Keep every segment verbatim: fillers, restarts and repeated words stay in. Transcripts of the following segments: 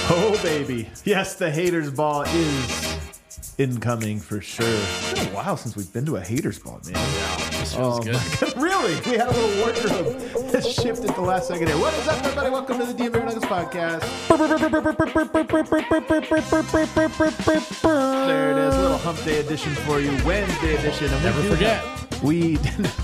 Oh, baby. Yes, the haters ball is incoming for sure. It's been a while since we've been to a haters ball, man. Yeah, this feels Oh, good. my God. Really? We had a little wardrobe that shifted the last second here. What is up, everybody? Welcome to the D M Nuggets podcast. There it is. A little hump day edition for you. Wednesday edition. And we Never do forget. have- we,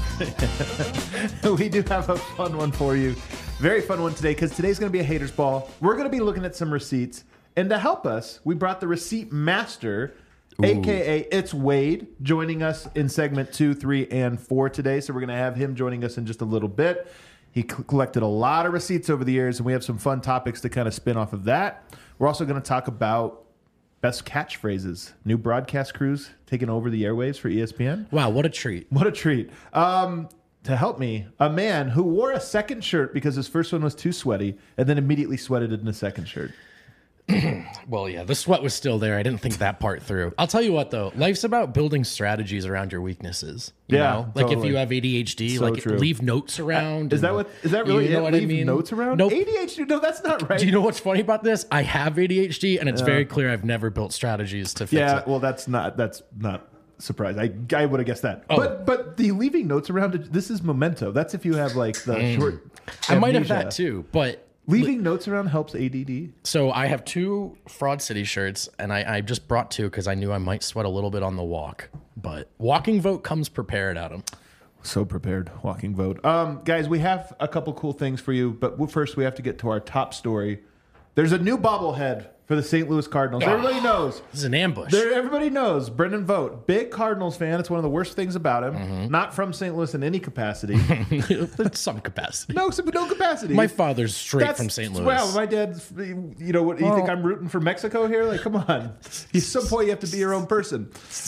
we do have a fun one for you. Very fun one today because today's going to be a haters ball. We're going to be looking at some receipts. And to help us, we brought the receipt master, Ooh. a k a. It's Wade, joining us in segment two, three, and four today. So we're going to have him joining us in just a little bit. He c- collected a lot of receipts over the years, and we have some fun topics to kind of spin off of that. We're also going to talk about best catchphrases, new broadcast crews taking over the airwaves for E S P N. Wow, what a treat. What a treat. Um, to help me, a man who wore a second shirt because his first one was too sweaty and then immediately sweated in the second shirt. Well, yeah, the sweat was still there. I didn't think that part through. I'll tell you what, though. Life's about building strategies around your weaknesses. You Yeah, know? Like totally. if you have A D H D, So like true. leave notes around. Is that and- what? Is that really you know it? what I Leave mean? notes around? Nope. A D H D? No, that's not right. Do you know what's funny about this? I have A D H D, and it's very clear I've never built strategies to fix yeah, it. well, that's not. That's not. Surprise! I I would have guessed that. Oh. But but the leaving notes around it. This is memento. That's if you have like the short. I might have amnesia. that too, but Leaving notes around helps A D D. so I have two Fraud City shirts, and I, I just brought two because I knew I might sweat a little bit on the walk. But walking vote comes prepared, Adam. So prepared, walking vote. Um, guys, we have a couple cool things for you, but first we have to get to our top story. There's a new bobblehead for the Saint Louis Cardinals. Everybody knows. This is an ambush. There, everybody knows. Brendan Vogt, big Cardinals fan. It's one of the worst things about him. Mm-hmm. Not from Saint Louis in any capacity. In some capacity. no, no capacity. My father's straight That's- from Saint Louis. Wow, my dad's. You know what? You Well- think I'm rooting for Mexico here? Like, come on. At some point, you have to be your own person.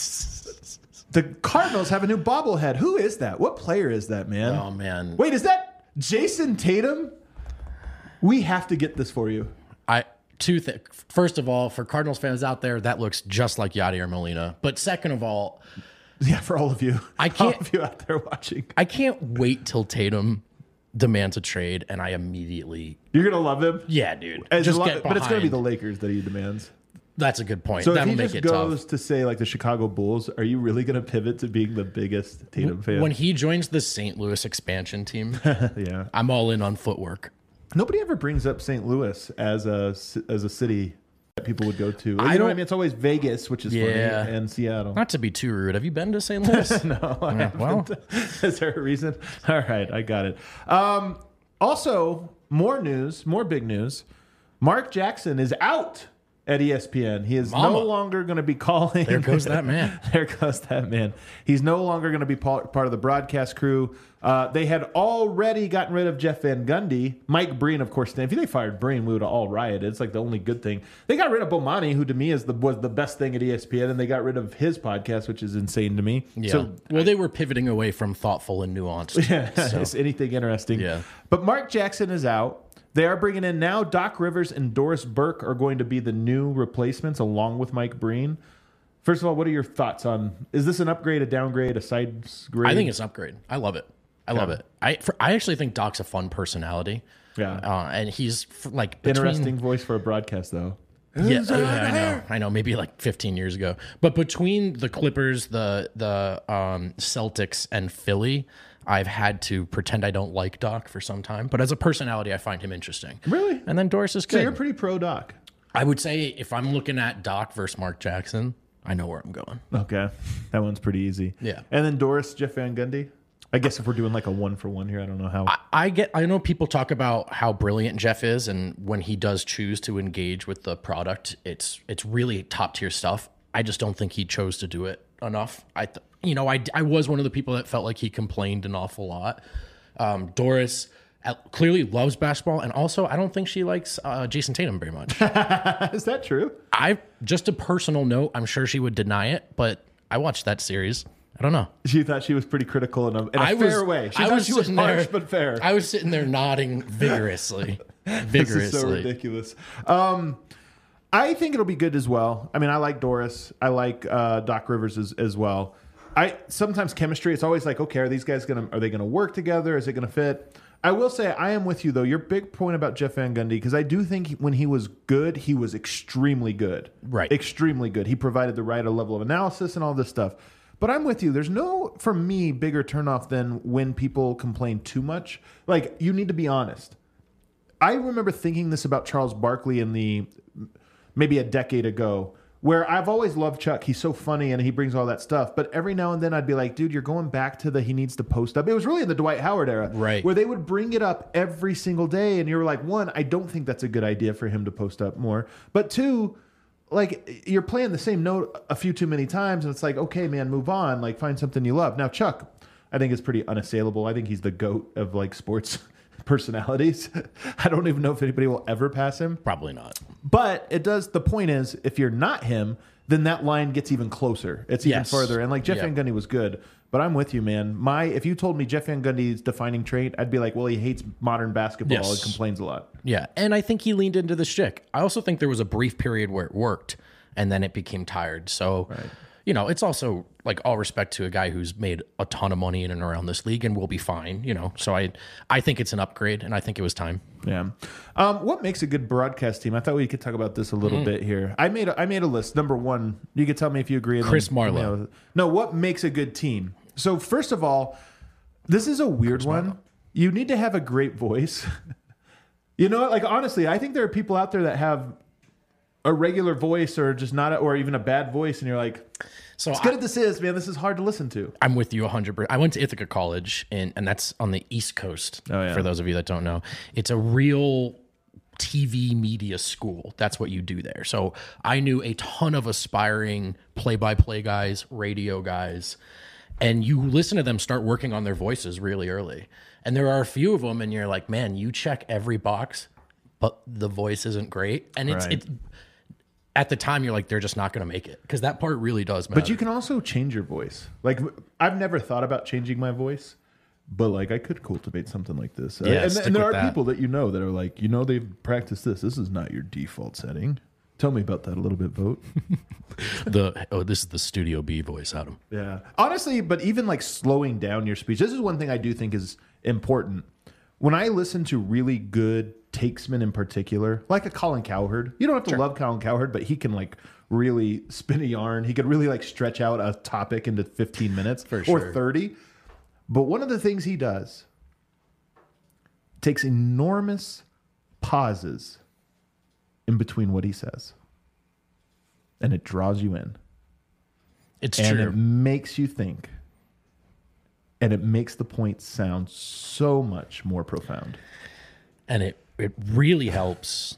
The Cardinals have a new bobblehead. Who is that? What player is that, man? Oh, man. Wait, is that Jason Tatum? We have to get this for you. I two things. First of all, for Cardinals fans out there, that looks just like Yadier Molina. But second of all, Yeah, for all of you. I All can't- of you out there watching. I can't wait till Tatum demands a trade, and I immediately, You're going to love him? yeah, dude, As just lo- get but it's going to be the behind. Lakers that he demands. That's a good point. So if That'll he make just it goes tough. to say like the Chicago Bulls, are you really going to pivot to being the biggest Tatum fan? When he joins the Saint Louis expansion team, yeah. I'm all in on footwork. Nobody ever brings up Saint Louis as a ci- as a city that people would go to. You I know what I don't- mean? It's always Vegas, which is Yeah. funny, and Seattle. Not to be too rude, have you been to Saint Louis? No, I Yeah, well. haven't. Is there a reason? All right, I got it. Um, also, more news, more big news. Mark Jackson is out at E S P N. He is Mama. no longer going to be calling. There goes that man. There goes that man. He's no longer going to be pa- part of the broadcast crew. Uh, they had already gotten rid of Jeff Van Gundy. Mike Breen, of course. If they fired Breen, we would have all rioted. It's like the only good thing. They got rid of Bomani, who to me is the was the best thing at E S P N, and they got rid of his podcast, which is insane to me. Yeah. So well, they were pivoting away from thoughtful and nuanced. yeah, So, it's anything interesting. Yeah. But Mark Jackson is out. They are bringing in now Doc Rivers and Doris Burke are going to be the new replacements along with Mike Breen. First of all, what are your thoughts on, is this an upgrade, a downgrade, a side grade? I think it's an upgrade. I love it. I love it. I for, I actually think Doc's a fun personality. Yeah. Uh, and he's f- like between, Interesting voice for a broadcast, though. Yeah, yeah, I know. I know. Maybe like fifteen years ago. But between the Clippers, the the um, Celtics, and Philly, I've had to pretend I don't like Doc for some time. But as a personality, I find him interesting. Really? And then Doris is So good. you're pretty pro Doc. I would say if I'm looking at Doc versus Mark Jackson, I know where I'm going. Okay. That one's pretty easy. Yeah. And then Doris, Jeff Van Gundy. I guess if we're doing like a one for one here, I don't know how. I, I get. I know people talk about how brilliant Jeff is, and when he does choose to engage with the product, it's it's really top tier stuff. I just don't think he chose to do it enough. I, th- you know, I I was one of the people that felt like he complained an awful lot. Um, Doris uh, clearly loves basketball, and also I don't think she likes uh, Jason Tatum very much. Is that true? I just a personal note. I'm sure she would deny it, but I watched that series. I don't know. She thought she was pretty critical in a, in a I fair was, way. She I thought was she was sitting harsh there, but fair. I was sitting there nodding vigorously. This vigorously. is so ridiculous. Um, I think it'll be good as well. I mean, I like Doris. I like uh, Doc Rivers as, as well. I sometimes chemistry. It's always like, okay, are these guys gonna are they gonna work together? Is it gonna fit? I will say I am with you though. Your big point about Jeff Van Gundy, because I do think when he was good, he was extremely good. Right. Extremely good. He provided the right level of analysis and all this stuff. But I'm with you. There's no, for me, bigger turnoff than when people complain too much. Like, you need to be honest. I remember thinking this about Charles Barkley in the maybe a decade ago, where I've always loved Chuck. He's so funny and he brings all that stuff. But every now and then I'd be like, dude, you're going back to the he needs to post up. It was really in the Dwight Howard era. Right. Where they would bring it up every single day. And you were like, one, I don't think that's a good idea for him to post up more. But two, like, you're playing the same note a few too many times. And it's like, okay, man, move on. Like, find something you love. Now, Chuck, I think is pretty unassailable. I think he's the GOAT of like sports personalities. I don't even know if anybody will ever pass him. Probably not. But it does. The point is, if you're not him, then that line gets even closer. It's even Yes. further. And like Jeff Yep. Van Gundy was good, but I'm with you, man. My if you told me Jeff Van Gundy's defining trait, I'd be like, well, he hates modern basketball Yes. and complains a lot. Yeah, and I think he leaned into the shtick. I also think there was a brief period where it worked, and then it became tired. So, you know, it's also like all respect to a guy who's made a ton of money in and around this league and will be fine. You know, so I, I think it's an upgrade, and I think it was time. Yeah. Um, what makes a good broadcast team? I thought we could talk about this a little Mm. bit here. I made a, I made a list. Number one, you could tell me if you agree. and Chris then- Marlowe. you know, no, what makes a good team? So first of all, this is a weird one. Marlowe. You need to have a great voice. You know what? Like, honestly, I think there are people out there that have a regular voice or just not, a, or even a bad voice, and you're like, So as good as this is, man, this is hard to listen to. I'm with you one hundred percent. I went to Ithaca College, and, and that's on the East Coast, Oh, yeah. for those of you that don't know. It's a real T V media school. That's what you do there. So I knew a ton of aspiring play-by-play guys, radio guys, and you listen to them start working on their voices really early. And there are a few of them, and you're like, man, you check every box, but the voice isn't great. And it's... Right. it's at the time, you're like, they're just not going to make it, because that part really does matter. But you can also change your voice. Like, I've never thought about changing my voice, but like I could cultivate something like this. Uh, Yeah, and stick and there with are that. people that you know that are like, you know, they've practiced this. This is not your default setting. Tell me about that a little bit, Vote. the oh, this is the Studio B voice, Adam. Yeah. Honestly, but even like slowing down your speech, this is one thing I do think is important. When I listen to really good takesmen in particular, like a Colin Cowherd, you don't have to love Colin Cowherd, but he can like really spin a yarn. He could really like stretch out a topic into fifteen minutes For or sure. thirty. But one of the things he does takes enormous pauses in between what he says. And it draws you in. It's And true. it makes you think. And it makes the point sound so much more profound. And it it really helps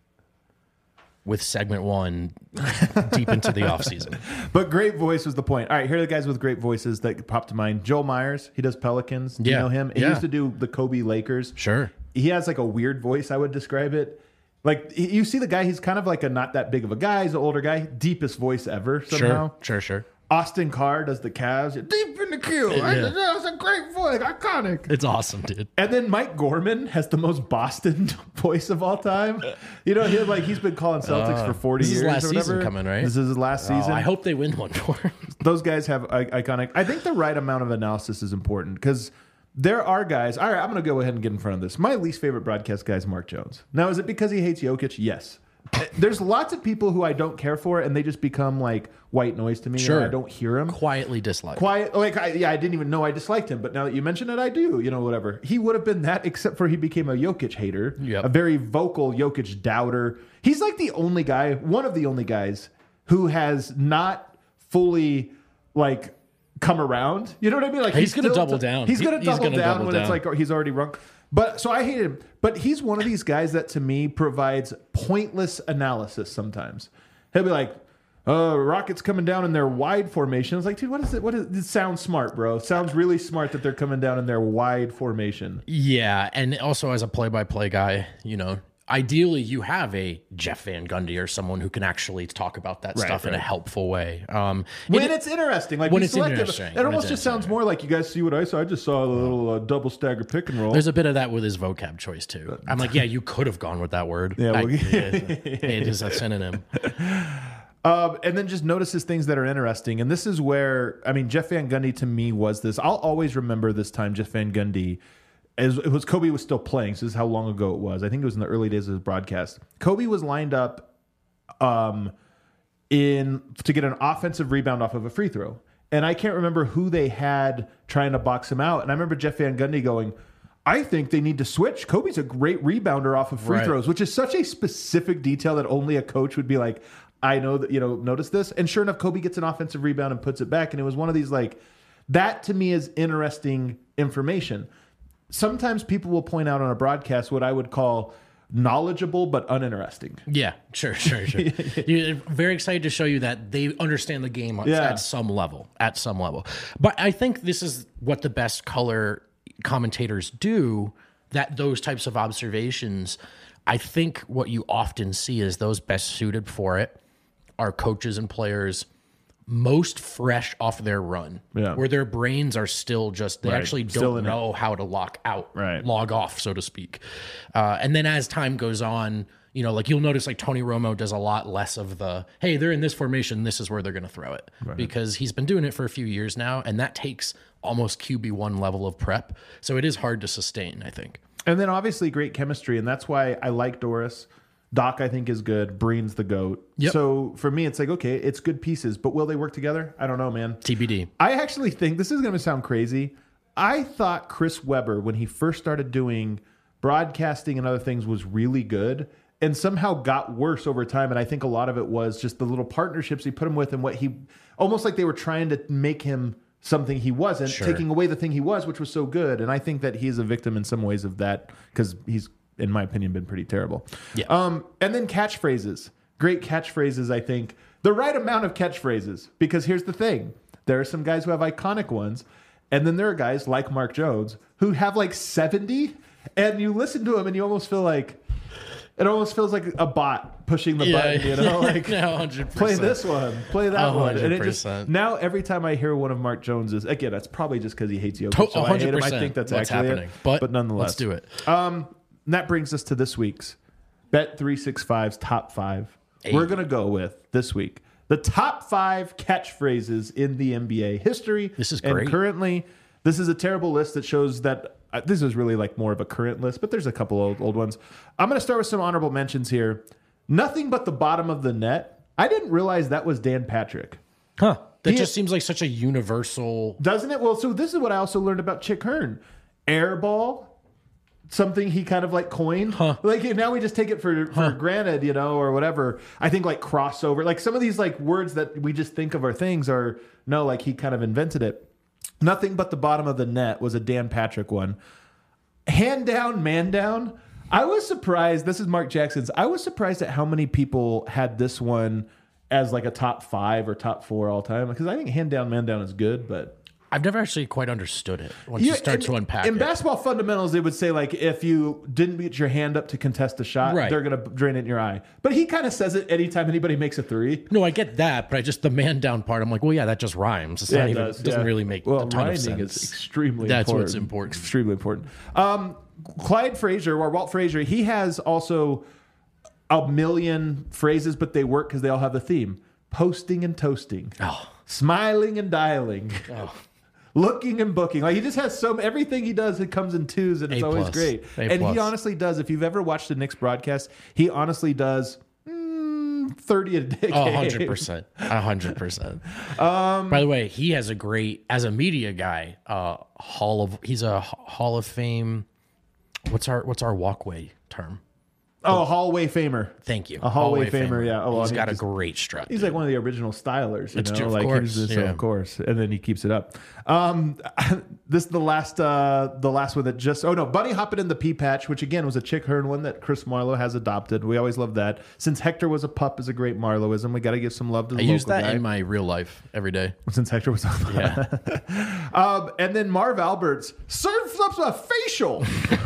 with segment one deep into the off season. But great voice was the point. All right, here are the guys with great voices that popped to mind. Joel Myers, he does Pelicans. Do you Yeah. know him? He Yeah. used to do the Kobe Lakers. Sure. He has like a weird voice, I would describe it. Like, he- you see the guy, he's kind of like a not that big of a guy. He's an older guy. Deepest voice ever somehow. Sure. Sure. Sure. Austin Carr does the Cavs. Deep in the queue. Yeah. That's a great voice. Iconic. It's awesome, dude. And then Mike Gorman has the most Boston voice of all time. You know, he like he's been calling Celtics for forty Uh, this is years. last or whatever. season coming, right? This is his last Oh, season. I hope they win one for him. Those guys have I- iconic. I think the right amount of analysis is important because there are guys. All right, I'm going to go ahead and get in front of this. My least favorite broadcast guy is Mark Jones. Now, is it because he hates Jokic? Yes. There's lots of people who I don't care for, and they just become like white noise to me. Sure. And I don't hear them. Quietly dislike. Quiet, like I, yeah, I didn't even know I disliked him, but now that you mention it, I do. You know, whatever. He would have been that, except for he became a Jokic hater, Yep. a very vocal Jokic doubter. He's like the only guy, one of the only guys, who has not fully like come around. You know what I mean? Like He's gonna still double t- down. He's He- gonna he's double gonna down double when it's down. like he's already rung. But so I hate him. But he's one of these guys that to me provides pointless analysis sometimes. He'll be like, uh, Rockets coming down in their wide formation. I was like, dude, what is it? What is it? Sounds smart, bro. It sounds really smart that they're coming down in their wide formation. Yeah, and also as a play-by-play guy, you know, ideally you have a Jeff Van Gundy or someone who can actually talk about that Right, stuff in a right. helpful way. Um, When it- it's interesting, like when we it's selected, interesting, it when almost it's just sounds interesting. more like you guys see what I saw. I just saw a little uh, double stagger pick and roll. There's a bit of that with his vocab choice too. I'm like, yeah, you could have gone with that word. Yeah, I- well, it is a synonym. Um, and then just notices things that are interesting. And this is where, I mean, Jeff Van Gundy to me was this. I'll always remember this time Jeff Van Gundy as it was Kobe was still playing. So this is how long ago it was. I think it was in the early days of his broadcast. Kobe was lined up um, in to get an offensive rebound off of a free throw. And I can't remember who they had trying to box him out. And I remember Jeff Van Gundy going, I think they need to switch. Kobe's a great rebounder off of free right. throws, which is such a specific detail that only a coach would be like, I know that, you know, notice this. And sure enough, Kobe gets an offensive rebound and puts it back. And it was one of these like, that to me is interesting information. Sometimes people will point out on a broadcast what I would call knowledgeable but uninteresting. Yeah, sure, sure, sure. You're very excited to show you that they understand the game Yeah. at some level, at some level. But I think this is what the best color commentators do, that those types of observations, I think what you often see is those best suited for it are coaches and players most fresh off their run, Yeah. where their brains are still just, they Right. actually Still don't in it. know how to lock out, Right. log off, so to speak. Uh, and then as time goes on, you know, like you'll notice like Tony Romo does a lot less of the, hey, they're in this formation, this is where they're going to throw it. Right. Because he's been doing it for a few years now, and that takes almost Q B one level of prep. So it is hard to sustain, I think. And then obviously great chemistry. And that's why I like Doris. Doc, I think, is good. Breen's the GOAT. Yep. So for me, it's like, okay, it's good pieces, but will they work together? I don't know, man. T B D. I actually think, this is going to sound crazy, I thought Chris Webber, when he first started doing broadcasting and other things, was really good and somehow got worse over time. And I think a lot of it was just the little partnerships he put him with and what he, almost like they were trying to make him something he wasn't, Sure. taking away the thing he was, which was so good. And I think that he is a victim in some ways of that because he's, in my opinion, been pretty terrible. Yeah. Um, and then catchphrases. Great catchphrases, I think. The right amount of catchphrases. Because here's the thing. There are some guys who have iconic ones. And then there are guys like Mark Jones who have like seventy. And you listen to him and you almost feel like, it almost feels like a bot pushing the Yeah, button, you know? Like, no, one hundred percent. play this one, play that one. And it just, one hundred percent. now every time I hear one of Mark Jones's, again, that's probably just because he hates Jokic. To- So I hate him. I one hundred percent think that's what's actually happening. it. But, But nonetheless. let's do it. Um, and that brings us to this week's Bet three sixty-five's top five. Hey. We're going to go with this week the top five catchphrases in the N B A history. This is and great. currently, this is a terrible list that shows that uh, this is really like more of a current list, but there's a couple old, old ones. I'm going to start with some honorable mentions here. Nothing but the bottom of the net. I didn't realize that was Dan Patrick. Huh. That He- just seems like such a universal. Doesn't it? Well, so this is what I also learned about Chick Hearn. Airball, something he kind of like coined. Huh. Like now we just take it for, for granted, you know, or whatever. I think like crossover, like some of these like words that we just think of are things are, no, like he kind of invented it. Nothing but the bottom of the net was a Dan Patrick one. Hand down, man down. I was surprised. This is Mark Jackson's. I was surprised at how many people had this one as like a top five or top four all time. Because I think hand down, man down is good, but I've never actually quite understood it once you start in, to unpack in it. basketball fundamentals, they would say like if you didn't put your hand up to contest a shot, Right. they're going to drain it in your eye. But he kind of says it anytime anybody makes a three. No, I get that, but I just the man down part. I'm like, well, yeah, that just rhymes. It's not it even, does, it doesn't yeah. really make well, a ton of rhyming sense. is extremely That's important. what's important. Extremely important. Um, Clyde Frazier or Walt Frazier, he has also a million phrases, but they work because they all have a theme: posting and toasting, Oh. smiling and dialing. Oh. Looking and booking. Like he just has so everything he does, it comes in twos and it's A always plus. great. A and plus. he honestly does. If you've ever watched a Knicks broadcast, he honestly does mm, thirty a day. A hundred percent. A hundred percent. By the way, he has a great, as a media guy, uh, hall of, he's a Hall of Fame. What's our, what's our walkway term? Oh, hallway famer. Thank you. A hallway famer, yeah. Oh, well, He's I mean, got a just- great strut. He's like one of the original stylers, you It's know, true, of like course, he's just, yeah. of course, and then he keeps it up. Um, this is the last, uh, the last one that just. Oh no, Bunny hopping in the pea patch, which again was a Chick Hearn one that Chris Marlowe has adopted. We always love that. Since Hector was a pup, is a great Marloweism. We got to give some love to the I local use that guy. in my real life every day. Since Hector was a pup. Yeah. um, and then Marv Alberts serves up a facial.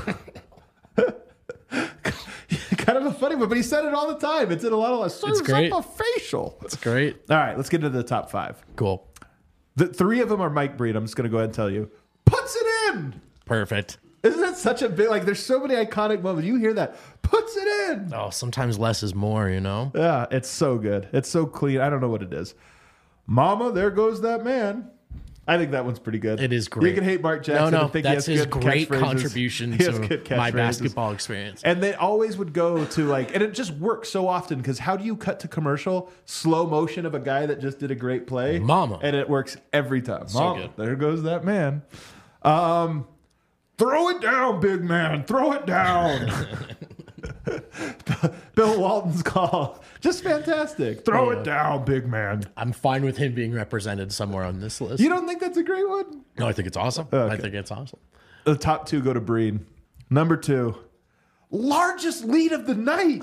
Kind of a funny one, but he said it all the time. It's in a lot of serves great. up a facial. It's great. All right, let's get into the top five. Cool. The three of them are Mike Breen. I'm just going to go ahead and tell you. Puts it in. Perfect. Isn't that such a big, like, there's so many iconic moments. You hear that. Puts it in. Oh, sometimes less is more, you know? Yeah, it's so good. It's so clean. I don't know what it is. Mama, there goes that man. I think that one's pretty good. It is great. You can hate Mark Jackson. No, no, and think that's he has his good great catchphrases. contribution He has to good my catchphrases. basketball experience. And they always would go to like, and it just works so often because how do you cut to commercial? Slow motion of a guy that just did a great play. Mama. And it works every time. So Mama, good. there goes that man. Um, throw it down, big man. Throw it down. Bill Walton's call. Just fantastic. Throw Yeah. it down, big man. I'm fine with him being represented somewhere on this list. You don't think that's a great one? No, I think it's awesome. I Okay. think it's awesome. The top two go to Breen. Number two, largest lead of the night.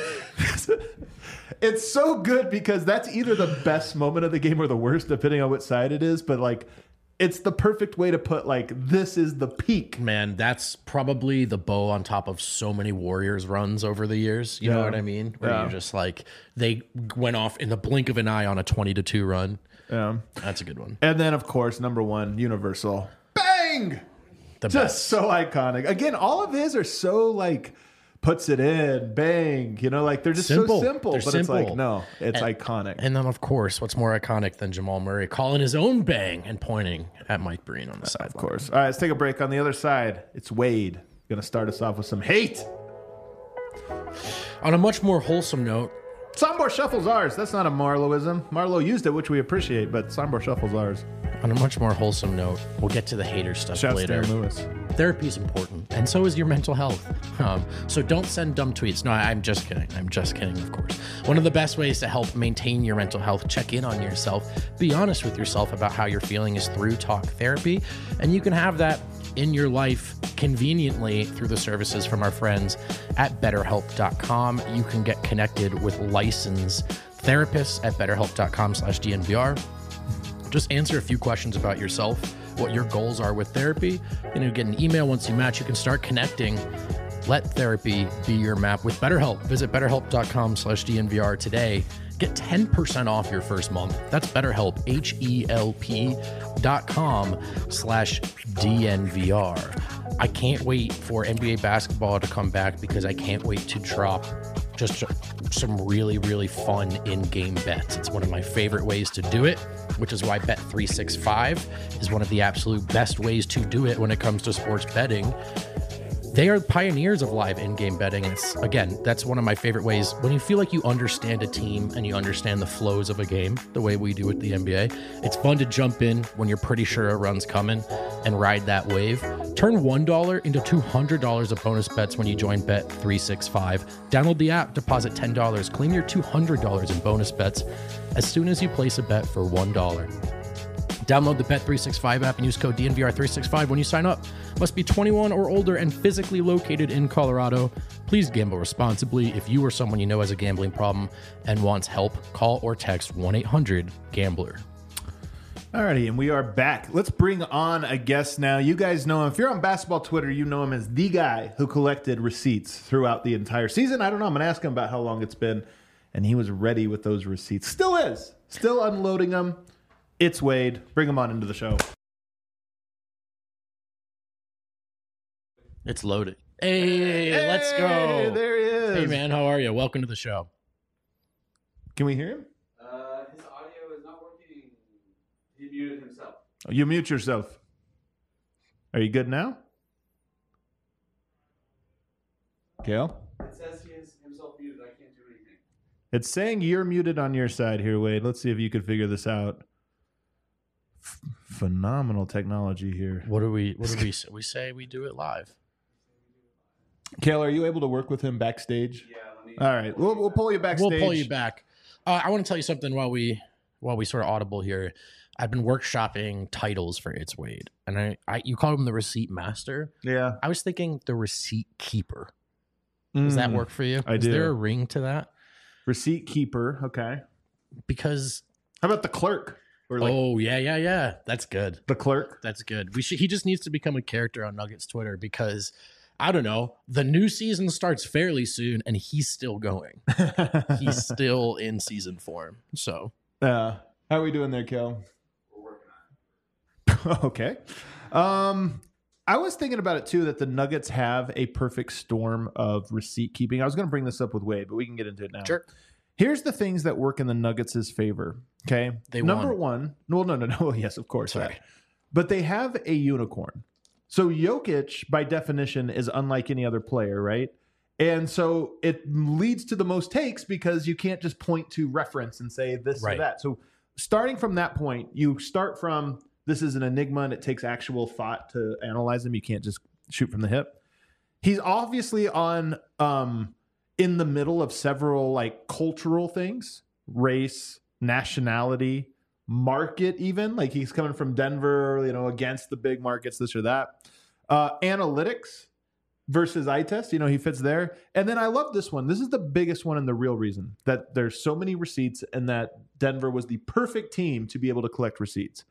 It's so good because that's either the best moment of the game or the worst, depending on which side it is. But like, it's the perfect way to put like, this is the peak. Man, that's probably the bow on top of so many Warriors runs over the years. You know Yeah. what I mean? Where Yeah. you're just like, they went off in the blink of an eye on a twenty to two run. Yeah. That's a good one. And then, of course, number one, Universal. Bang! The Just best. so iconic. Again, all of his are so like, puts it in, bang. You know, like they're just Simple. so simple. They're but simple. it's like, no, it's And- iconic. And then, of course, what's more iconic than Jamal Murray calling his own bang and pointing at Mike Breen on the sideline? Of course. All right, let's take a break. On the other side, it's Wade. Going to start us off with some hate. On a much more wholesome note, Sombor Shuffle's ours. That's not a Marlowism. Marlo used it, which we appreciate, but Sombor Shuffle's ours. on a much more wholesome note, we'll get to the hater stuff Shouts later. to Stan Lewis. Therapy is important, and so is your mental health. Um, so don't send dumb tweets. No, I'm just kidding. I'm just kidding, of course. One of the best ways to help maintain your mental health, check in on yourself, be honest with yourself about how you're feeling is through talk therapy. And you can have that in your life conveniently through the services from our friends at betterhelp dot com. You can get connected with licensed therapists at betterhelp.com slash DNVR. Just answer a few questions about yourself, what your goals are with therapy, and you get an email once you match. You can start connecting. Let therapy be your map with BetterHelp. Visit betterhelp.com slash DNVR today. Get ten percent off your first month. That's BetterHelp, H-E-L-P dot com slash DNVR. I can't wait for N B A basketball to come back because I can't wait to drop just some really, really fun in-game bets. It's one of my favorite ways to do it, which is why Bet three sixty-five is one of the absolute best ways to do it when it comes to sports betting. They are pioneers of live in-game betting. And it's, again, that's one of my favorite ways. When you feel like you understand a team and you understand the flows of a game, the way we do with the N B A, it's fun to jump in when you're pretty sure a run's coming and ride that wave. Turn one dollar into two hundred dollars of bonus bets when you join Bet three sixty-five. Download the app, deposit ten dollars, claim your two hundred dollars in bonus bets as soon as you place a bet for one dollar. Download the Bet three sixty-five app and use code D N V R three sixty-five when you sign up. Must be twenty-one or older and physically located in Colorado. Please gamble responsibly. If you or someone you know has a gambling problem and wants help, call or text one eight hundred gambler. Alrighty, and we are back. Let's bring on a guest now. You guys know him. If you're on basketball Twitter, you know him as the guy who collected receipts throughout the entire season. I don't know. I'm going to ask him about how long it's been, and he was ready with those receipts. Still is. Still unloading them. It's Wade. Bring him on into the show. It's loaded. Hey, Hey, let's go. There he is. Hey, man, how are you? Welcome to the show. Can we hear him? Uh, his audio is not working. He muted himself. Oh, you mute yourself. Are you good now? Kale? It says he is himself muted. I can't do anything. It's saying you're muted on your side here, Wade. Let's see if you could figure this out. F- phenomenal technology here. What do we? What do we say? We say we do it live. Kale, are you able to work with him backstage? Yeah, let me. All right, we'll we'll pull you backstage. We'll pull you back. Uh, I want to tell you something while we while we sort of audible here. I've been workshopping titles for It's Wade, and I, I you called him the receipt master. Yeah. I was thinking the receipt keeper. Does that Mm. work for you? I Is do. there a ring to that? Receipt keeper. Okay. Because How about the clerk? Or like oh yeah yeah yeah, that's good. the clerk? That's good. We should. He just needs to become a character on Nuggets Twitter because I don't know. The new season starts fairly soon, and he's still going. He's still in season form. So Uh, how are we doing there, Kale? We're working on it. Okay. Um, I was thinking about it too that the Nuggets have a perfect storm of receipt keeping. I was going to bring this up with Wade, but we can get into it now. sure. Here's the things that work in the Nuggets' favor. Okay. They Number won. one. No, no, no, no. Yes, of course. Sorry. That. But they have a unicorn. So Jokic, by definition, is unlike any other player, right? And so it leads to the most takes because you can't just point to reference and say this Right. or that. So starting from that point, you start from this is an enigma and it takes actual thought to analyze him. You can't just shoot from the hip. He's obviously on um, in the middle of several like cultural things, race, nationality, market, even like he's coming from Denver, you know, against the big markets, this or that. Uh, analytics versus eye test, you know, he fits there. And then I love this one. This is the biggest one and the real reason that there's so many receipts and that Denver was the perfect team to be able to collect receipts.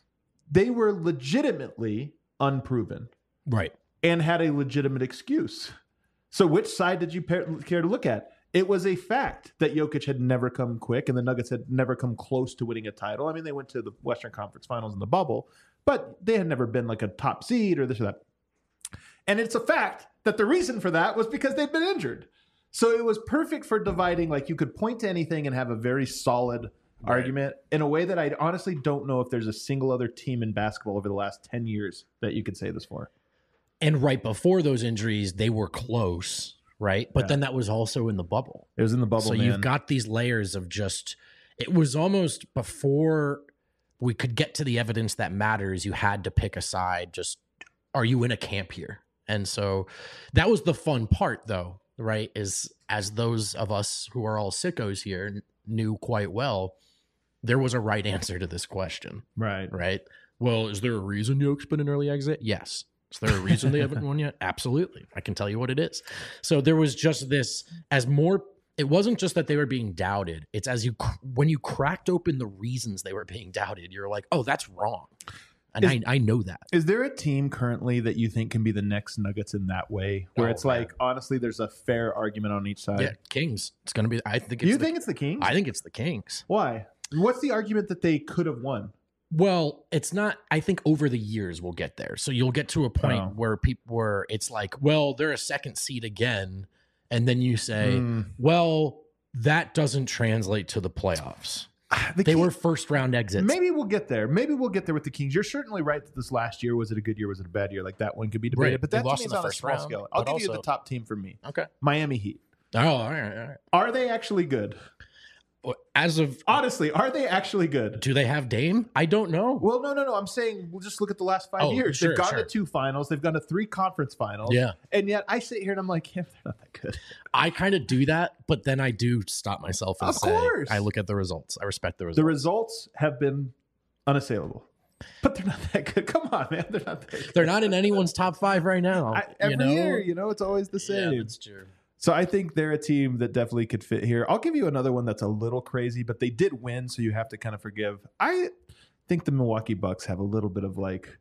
They were legitimately unproven. Right. And had a legitimate excuse. So which side did you care to look at? It was a fact that Jokic had never come quick and the Nuggets had never come close to winning a title. I mean, they went to the Western Conference Finals in the bubble, but they had never been like a top seed or this or that. And it's a fact that the reason for that was because they'd been injured. So it was perfect for dividing. Like you could point to anything and have a very solid Right. argument in a way that I honestly don't know if there's a single other team in basketball over the last ten years that you could say this for. And right before those injuries, they were close, right? But Yeah. then that was also in the bubble. It was in the bubble, So man. you've got these layers of just, it was almost before we could get to the evidence that matters, you had to pick a side. Just, are you in a camp here? And so that was the fun part, though, right? Is as those of us who are all sickos here knew quite well, there was a right answer to this question, Right. right? Well, is there a reason Yoke's been an early exit? Yes. Is there a reason they haven't won yet? Absolutely. I can tell you what it is. So there was just this, as more, it wasn't just that they were being doubted. It's as you, when you cracked open the reasons they were being doubted, you're like, oh, that's wrong. And Is- I, I know that. Is there a team currently that you think can be the next Nuggets in that way? Where Oh, it's man. like, honestly, there's a fair argument on each side. Yeah, Kings. It's going to be, I think it's you the, think it's the Kings? I think it's the Kings. Why? What's the argument that they could have won? Well, it's not. I think over the years we'll get there. So you'll get to a point Oh. where people, where it's like, well, they're a second seed again, and then you say, Hmm. well, that doesn't translate to the playoffs. The They King- were first round exits. Maybe we'll get there. Maybe we'll get there with the Kings. You're certainly right that this last year, was it a good year? Was it a bad year? Like that one could be debated. Right. But They that to lost me in is the on a first small round, scale. I'll but give you the also- top team for me. Okay. Miami Heat. Oh, all right, all right. Are they actually good? Well, as of, Honestly, are they actually good? do they have Dame? I don't know. Well, no, no, no. I'm saying we'll just look at the last five Oh, years. sure, They've gone sure. to two finals. They've gone to three conference finals. Yeah. And yet I sit here and I'm like, yeah, they're not that good. I kind of do that, but then I do stop myself and Of say, course. I look at the results. I respect the results. The results have been unassailable, but they're not that good. Come on, man. They're not that good. They're not in anyone's top five right now. I, every you know? year, you know, it's always the Yeah, same. that's true. So I think they're a team that definitely could fit here. I'll give you another one that's a little crazy, but they did win, so you have to kind of forgive. I think the Milwaukee Bucks have a little bit of like,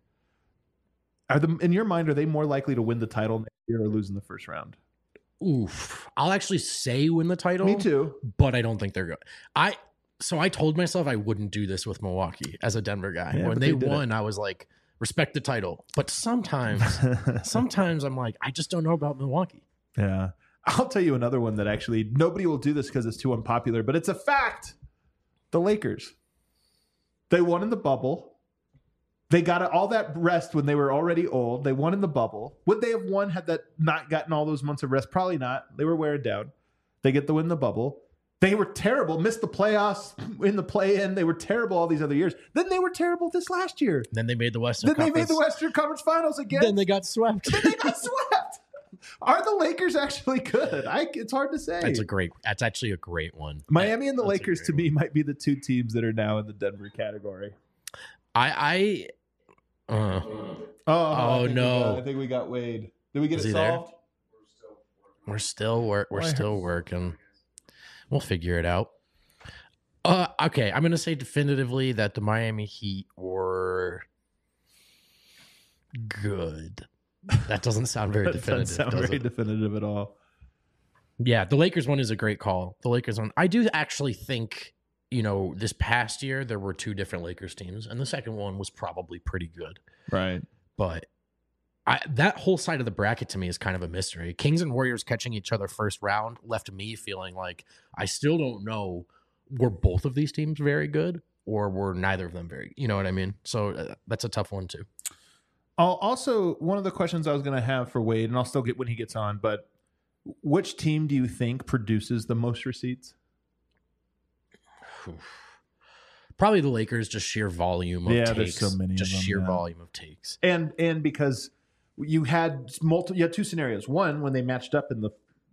are them in your mind? Are they more likely to win the title next year or lose in the first round? Oof. I'll actually say win the title. Me too. But I don't think they're good. I so I told myself I wouldn't do this with Milwaukee as a Denver guy. Yeah, when but they, they did won, I was like, respect the title. But sometimes, sometimes I'm like, I just don't know about Milwaukee. Yeah. I'll tell you another one that actually nobody will do this because it's too unpopular, but it's a fact. The Lakers. They won in the bubble. They got all that rest when they were already old. They won in the bubble. Would they have won had that not gotten all those months of rest? Probably not. They were wearing down. They get the win in the bubble. They were terrible. Missed the playoffs in the play-in. They were terrible all these other years. Then they were terrible this last year. Then they made the Western Then they Conference. made the Western Conference Finals again. Then they got swept. Then they got swept. Are the Lakers actually good? I, it's hard to say. That's a great. That's actually a great one. Miami and the That's a Lakers, great to one. me, might be the two teams that are now in the Denver category. I. I. Uh, Oh, Oh, I think we no. got- I think we got Wade. Did we get Is it he there? solved? we're still work. We're Why- still working. We'll figure it out. Uh, okay, I'm gonna say definitively that the Miami Heat were good. That doesn't sound very That doesn't definitive. sound does very it? definitive at all. Yeah, the Lakers one is a great call. The Lakers one, I do actually think, you know, this past year there were two different Lakers teams, and the second one was probably pretty good. Right. But I, that whole side of the bracket to me is kind of a mystery. Kings and Warriors catching each other first round left me feeling like I still don't know, were both of these teams very good or were neither of them very, you know what I mean? So uh, that's a tough one too. I'll also, one of the questions I was going to have for Wade, and I'll still get when he gets on, but which team do you think produces the most receipts? Probably the Lakers, just sheer volume of Yeah, takes. there's so many of Just them, sheer yeah. volume of takes. And and because you had multiple, you had two scenarios. One, when they matched up in the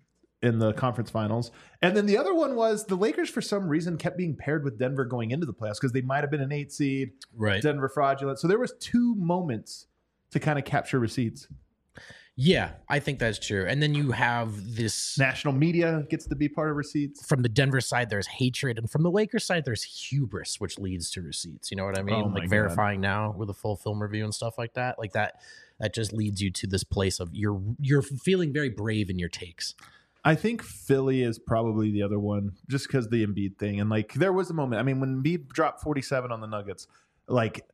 in the conference finals, and then the other one was the Lakers for some reason kept being paired with Denver going into the playoffs because they might have been an eight seed, Right. Denver fraudulent. So there was two moments to kind of capture receipts. Yeah, I think that's true. And then you have this National media gets to be part of receipts. from the Denver side, there's hatred, and from the Lakers side, there's hubris, which leads to receipts. You know what I mean? Oh my like God. verifying now with a full film review and stuff like that. Like that, that just leads you to this place of you're you're feeling very brave in your takes. I think Philly is probably the other one, just because the Embiid thing. And like, there was a moment. I mean, when Embiid dropped forty-seven on the Nuggets, like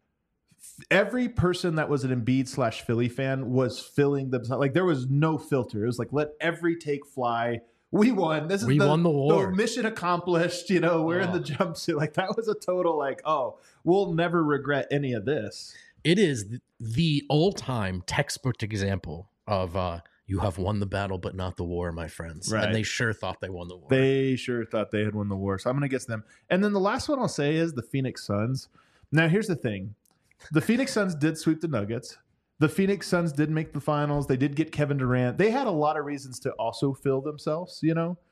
every person that was an Embiid slash Philly fan was filling themselves. Like there was no filter. It was like, let every take fly. We won. This is We the, won the war. mission accomplished. You know, we're in Oh. the jumpsuit. Like that was a total like, oh, we'll never regret any of this. It is th- the all-time textbook example of uh, you have won the battle, but not the war, my friends. Right. And they sure thought they won the war. They sure thought they had won the war. So I'm going to guess them. And then the last one I'll say is the Phoenix Suns. Now, here's the thing. The Phoenix Suns did sweep the Nuggets. The Phoenix Suns did make the finals. They did get Kevin Durant. They had a lot of reasons to also fill themselves, you know?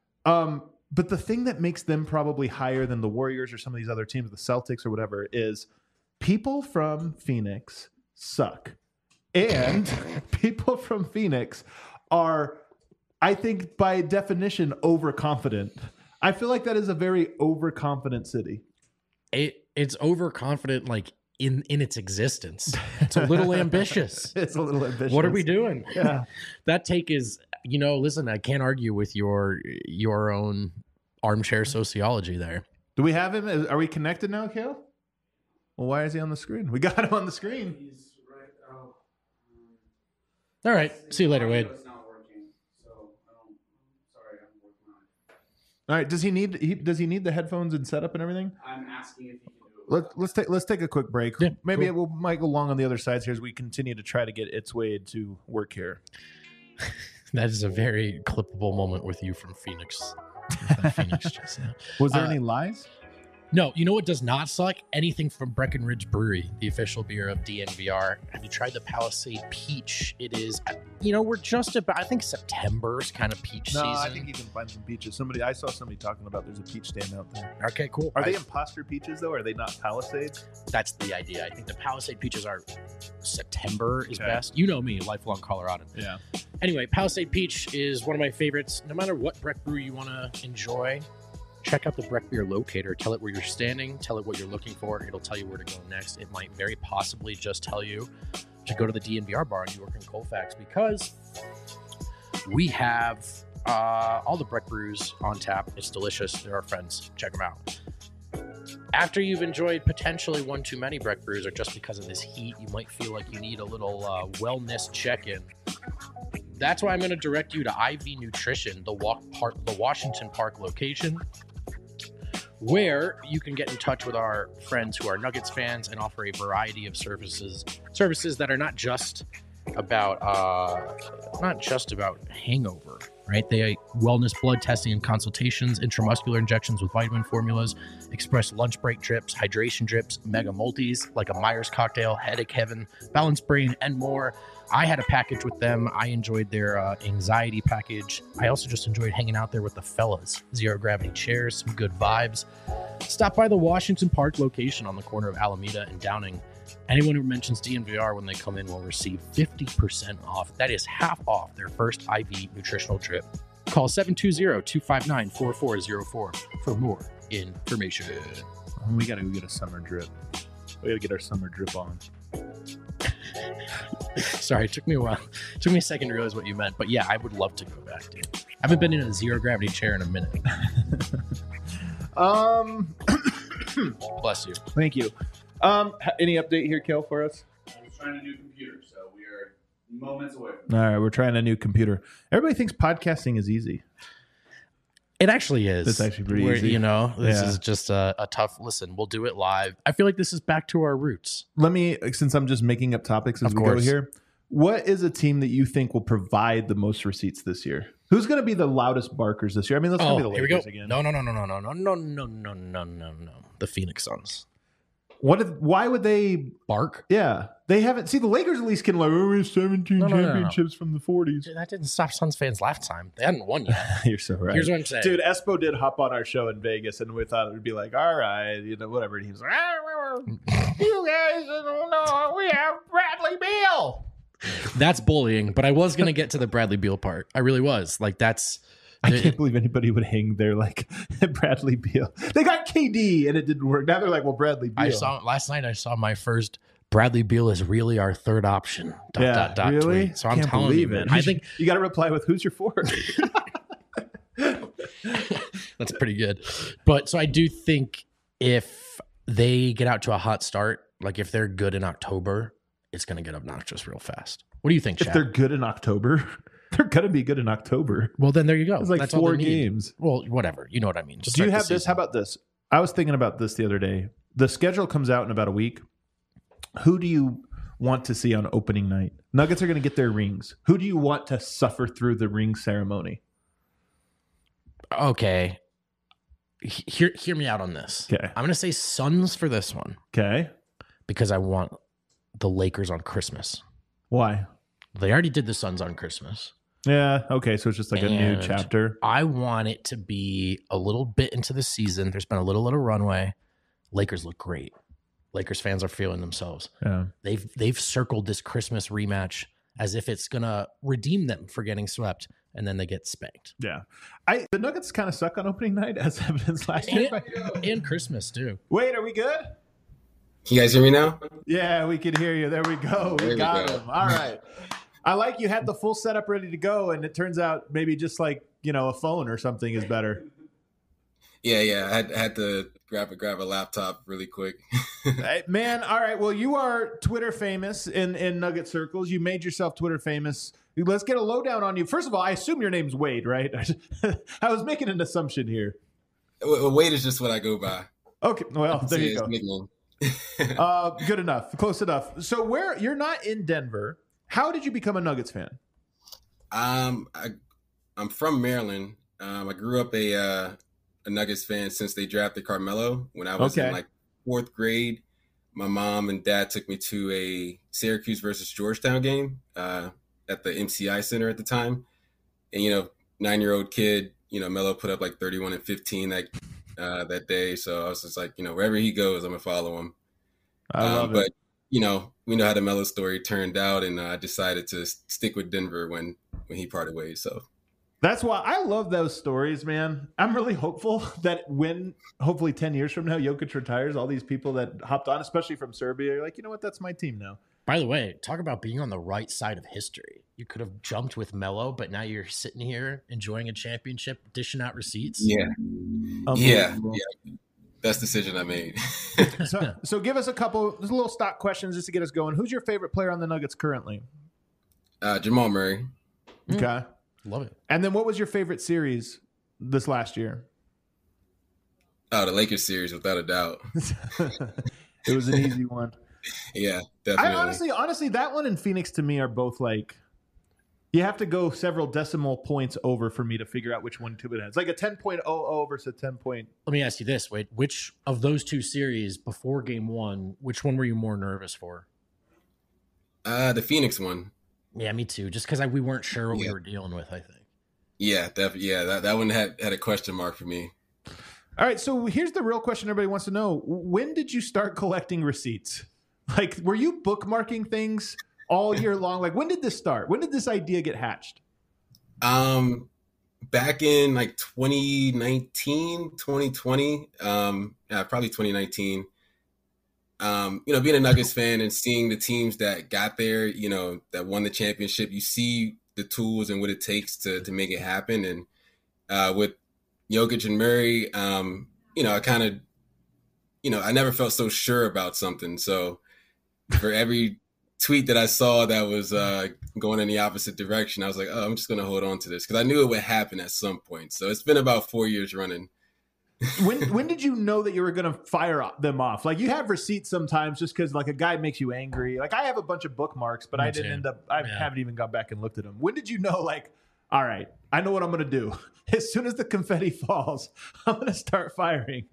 Um, but the thing that makes them probably higher than the Warriors or some of these other teams, the Celtics or whatever, is people from Phoenix suck. And people from Phoenix are, I think, by definition, overconfident. I feel like that is a very overconfident city. It it's overconfident, like in in its existence. It's a little ambitious. It's a little ambitious. What are we doing? Yeah. That take is, you know, listen, I can't argue with your your own armchair sociology there. Do we have him? Are we connected now, Kale? Well, why is he on the screen? We got him on the screen. He's right. Oh. All right. See you later, Wade. It's not working, so I don't. Sorry, I'm working on it. All right. Does he need? He, does he need the headphones and setup and everything? I'm asking if you can do it. Let's let's take let's take a quick break. Yeah, Maybe cool. it will might go long on the other sides here as we continue to try to get It's Wade to work here. That is a very clippable moment with you from Phoenix. Phoenix just now. Was there Uh, any lies? No, you know what does not suck? Anything from Breckenridge Brewery, the official beer of D N V R. Have you tried the Palisade Peach? It is, you know, we're just about, I think September's kind of peach No, season. I think you can find some peaches. Somebody I saw somebody talking about there's a peach stand out there. Okay, cool. Are I- they imposter peaches though? Are they not Palisades? That's the idea. I think the Palisade Peaches are September is Okay. best. You know me, lifelong Coloradan. Yeah. Anyway, Palisade Peach is one of my favorites. No matter what Breck brew you want to enjoy, check out the Breck Beer Locator. Tell it where you're standing. Tell it what you're looking for. It'll tell you where to go next. It might very possibly just tell you to go to the D N V R bar in York and Colfax because we have uh, all the Breck brews on tap. It's delicious. They're our friends. Check them out. After you've enjoyed potentially one too many Breck brews, or just because of this heat, you might feel like you need a little uh, wellness check-in. That's why I'm going to direct you to I V Nutrition, the, walk park, the Washington Park location, where you can get in touch with our friends who are Nuggets fans and offer a variety of services, services that are not just about uh, not just about hangover, right? They wellness blood testing and consultations, intramuscular injections with vitamin formulas, express lunch break drips, hydration drips, mega multis like a Myers cocktail, headache heaven, balance brain, and more. I had a package with them. I enjoyed their uh, anxiety package. I also just enjoyed hanging out there with the fellas. Zero gravity chairs, some good vibes. Stop by the Washington Park location on the corner of Alameda and Downing. Anyone who mentions D N V R when they come in will receive fifty percent off. That is half off their first I V nutritional drip. Call seven two zero, two five nine, four four zero four for more information. We gotta go get a summer drip. We gotta get our summer drip on. Sorry, it took me a while. It took me a second to realize what you meant. But yeah, I would love to go back, dude. I haven't been in a zero gravity chair in a minute. Um, Bless you. thank you. Um, h- any update here, Kel, for us? I was trying a new computer, so we are moments away. All right, we're trying a new computer. Everybody thinks podcasting is easy. It actually is. It's actually pretty Where, easy. You know, this Yeah. is just a, a tough listen. We'll do it live. I feel like this is back to our roots. Let me, since I'm just making up topics as Of we course. go here, what is a team that you think will provide the most receipts this year? Who's going to be the loudest barkers this year? I mean, let's Oh, be the here we go. Lakers again. No, no, no, no, no, no, no, no, no, no, no, no, no. The Phoenix Suns. What? If, why would they? Bark? Yeah, they haven't. See, the Lakers at least can like, oh, we have seventeen No, no, no, no, no. championships from the forties. That didn't stop Suns fans last time. They hadn't won yet. You're so right. Here's what I'm saying. Dude, Espo did hop on our show in Vegas, and we thought it would be like, all right, you know, whatever. And he was like, ah, you guys don't know, we have Bradley Beal. That's bullying, but I was going to get to the Bradley Beal part. I really was. Like, that's. I can't believe anybody would hang there like Bradley Beal. They got K D, and it didn't work. Now they're like, well, Bradley Beal. I saw last night. I saw my first Bradley Beal is really our third option. Dot, yeah, dot, dot really? tweet. So I'm Can't telling you, believe man. it. I think you got to reply with who's your fourth. that's pretty good. But so I do think if they get out to a hot start, like if they're good in October, it's going to get obnoxious real fast. What do you think, If Chad? they're good in October, they're going to be good in October. Well, then there you go. It's like That's all four they need. games. Well, whatever. You know what I mean. Just Do you start have the this? How season. about this? I was thinking about this the other day. The schedule comes out in about a week. Who do you want to see on opening night? Nuggets are going to get their rings. Who do you want to suffer through the ring ceremony? Okay. He- Hear, hear me out on this. Okay. I'm going to say Suns for this one Okay. because I want the Lakers on Christmas. Why? They already did the Suns on Christmas. Yeah. Okay. So it's just like a new And chapter. I want it to be a little bit into the season. There's been a little little runway. Lakers look great. Lakers fans are feeling themselves. Yeah. They've they've circled this Christmas rematch as if it's gonna redeem them for getting swept, and then they get spanked. Yeah. I the Nuggets kind of suck on opening night, as evidenced last year. And, and Christmas too. Wait, are we good? Can you guys hear me now? Yeah, we can hear you. There we go. We There we got go. him. All right. I like you had the full setup ready to go, and it turns out maybe just like, you know, a phone or something is better. Yeah, yeah. I had, I had to grab a grab a laptop really quick. Hey, man, all right. Well, you are Twitter famous in, in Nugget circles. You made yourself Twitter famous. Let's get a lowdown on you. First of all, I assume your name's Wade, right? I was making an assumption here. Well, Wade is just what I go by. Okay, well, there Say you his go. nickname. Uh, good enough. Close enough. So where you're not in Denver, how did you become a Nuggets fan? Um, I, I'm from Maryland. Um, I grew up a uh, a Nuggets fan since they drafted Carmelo. When I was Okay. in like fourth grade, my mom and dad took me to a Syracuse versus Georgetown game uh, at the M C I Center at the time. And, you know, nine-year-old kid, you know, Melo put up like thirty-one and fifteen that uh, that day. So I was just like, you know, wherever he goes, I'm going to follow him. I love Um, but, it. you know, we know how the Melo story turned out, and uh, I decided to s- stick with Denver when, when he parted ways. So, That's why I love those stories, man. I'm really hopeful that when, hopefully ten years from now, Jokic retires, all these people that hopped on, especially from Serbia, are like, you know what, that's my team now. By the way, talk about being on the right side of history. You could have jumped with Melo, but now you're sitting here enjoying a championship, dishing out receipts. yeah, yeah, Unbelievable. yeah. Best decision I made. So, so give us a couple, just little stock questions just to get us going. Who's your favorite player on the Nuggets currently? uh, Jamal Murray. Mm. Okay. Love it. And then what was your favorite series this last year? Oh, the Lakers series, without a doubt. It was an easy one. Yeah, I definitely. honestly, honestly, that one and Phoenix to me are both like, you have to go several decimal points over for me to figure out which one to it has. Like a ten point oh oh versus a ten point. Let me ask you this, Wade. Which of those two series before game one, which one were you more nervous for? uh, the Phoenix one. Yeah, me too. Just because we weren't sure what we Yeah. were dealing with, I think. Yeah, definitely. Yeah, that, that one had, had a question mark for me. All right, so here's the real question everybody wants to know. When did you start collecting receipts? Like, were you bookmarking things all year long? Like, when did this start? When did this idea get hatched? Um, back in like twenty nineteen, twenty twenty, um, yeah, probably twenty nineteen. Um, you know, being a Nuggets fan and seeing the teams that got there, you know, that won the championship, you see the tools and what it takes to to make it happen. And uh, with Jokic and Murray, um, you know, I kind of, you know, I never felt so sure about something. So for every tweet that I saw that was uh, going in the opposite direction, I was like, oh, I'm just going to hold on to this because I knew it would happen at some point. So it's been about four years running. when when did you know that you were going to fire them off? Like, you have receipts sometimes just because like a guy makes you angry. Like, I have a bunch of bookmarks, but Me I didn't too. end up. I Yeah. haven't even gone back and looked at them. When did you know? Like, all right, I know what I'm going to do. As soon as the confetti falls, I'm going to start firing.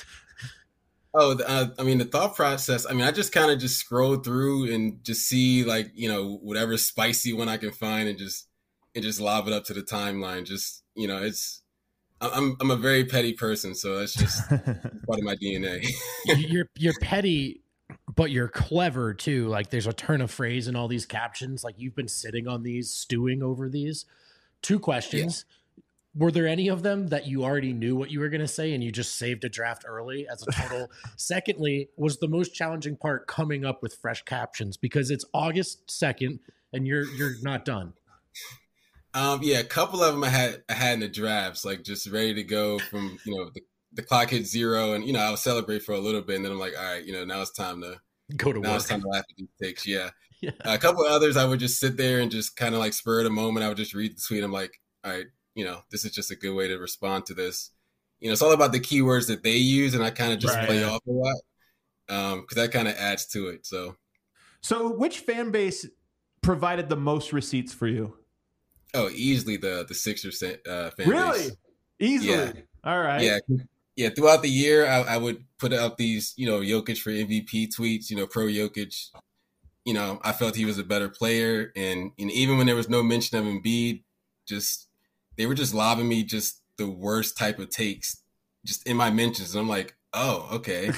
Oh, the, uh, I mean, the thought process, I mean, I just kind of just scroll through and just see like, you know, whatever spicy one I can find and just, and just lob it up to the timeline. Just, you know, it's, I'm, I'm a very petty person. So that's just part of my D N A. you're you're petty, but you're clever too. Like, there's a turn of phrase in all these captions. Like, you've been sitting on these, stewing over these. Two questions. Yeah. Were there any of them that you already knew what you were going to say and you just saved a draft early as a total? Secondly, was the most challenging part coming up with fresh captions because it's August second and you're you're not done? Um, yeah, a couple of them I had I had in the drafts, like just ready to go from, you know, the, the clock hit zero and, you know, I'll celebrate for a little bit and then I'm like, all right, you know, now it's time to go to now work. it's time to laugh at these takes. Yeah. Yeah. Uh, a couple of others I would just sit there and just kind of like spur of the moment. I would just read the tweet. I'm like, all right, you know, this is just a good way to respond to this. You know, it's all about the keywords that they use and I kind of just Right. play off a lot um, because that kind of adds to it. So, So which fan base provided the most receipts for you? oh, easily the the Sixers uh, fan Really? base. Easily? Yeah. All right. Yeah. Yeah. Throughout the year, I, I would put up these, you know, Jokic for M V P tweets, you know, pro Jokic. You know, I felt he was a better player. And, and even when there was no mention of Embiid, just they were just lobbing me just the worst type of takes just in my mentions. And I'm like, oh, okay.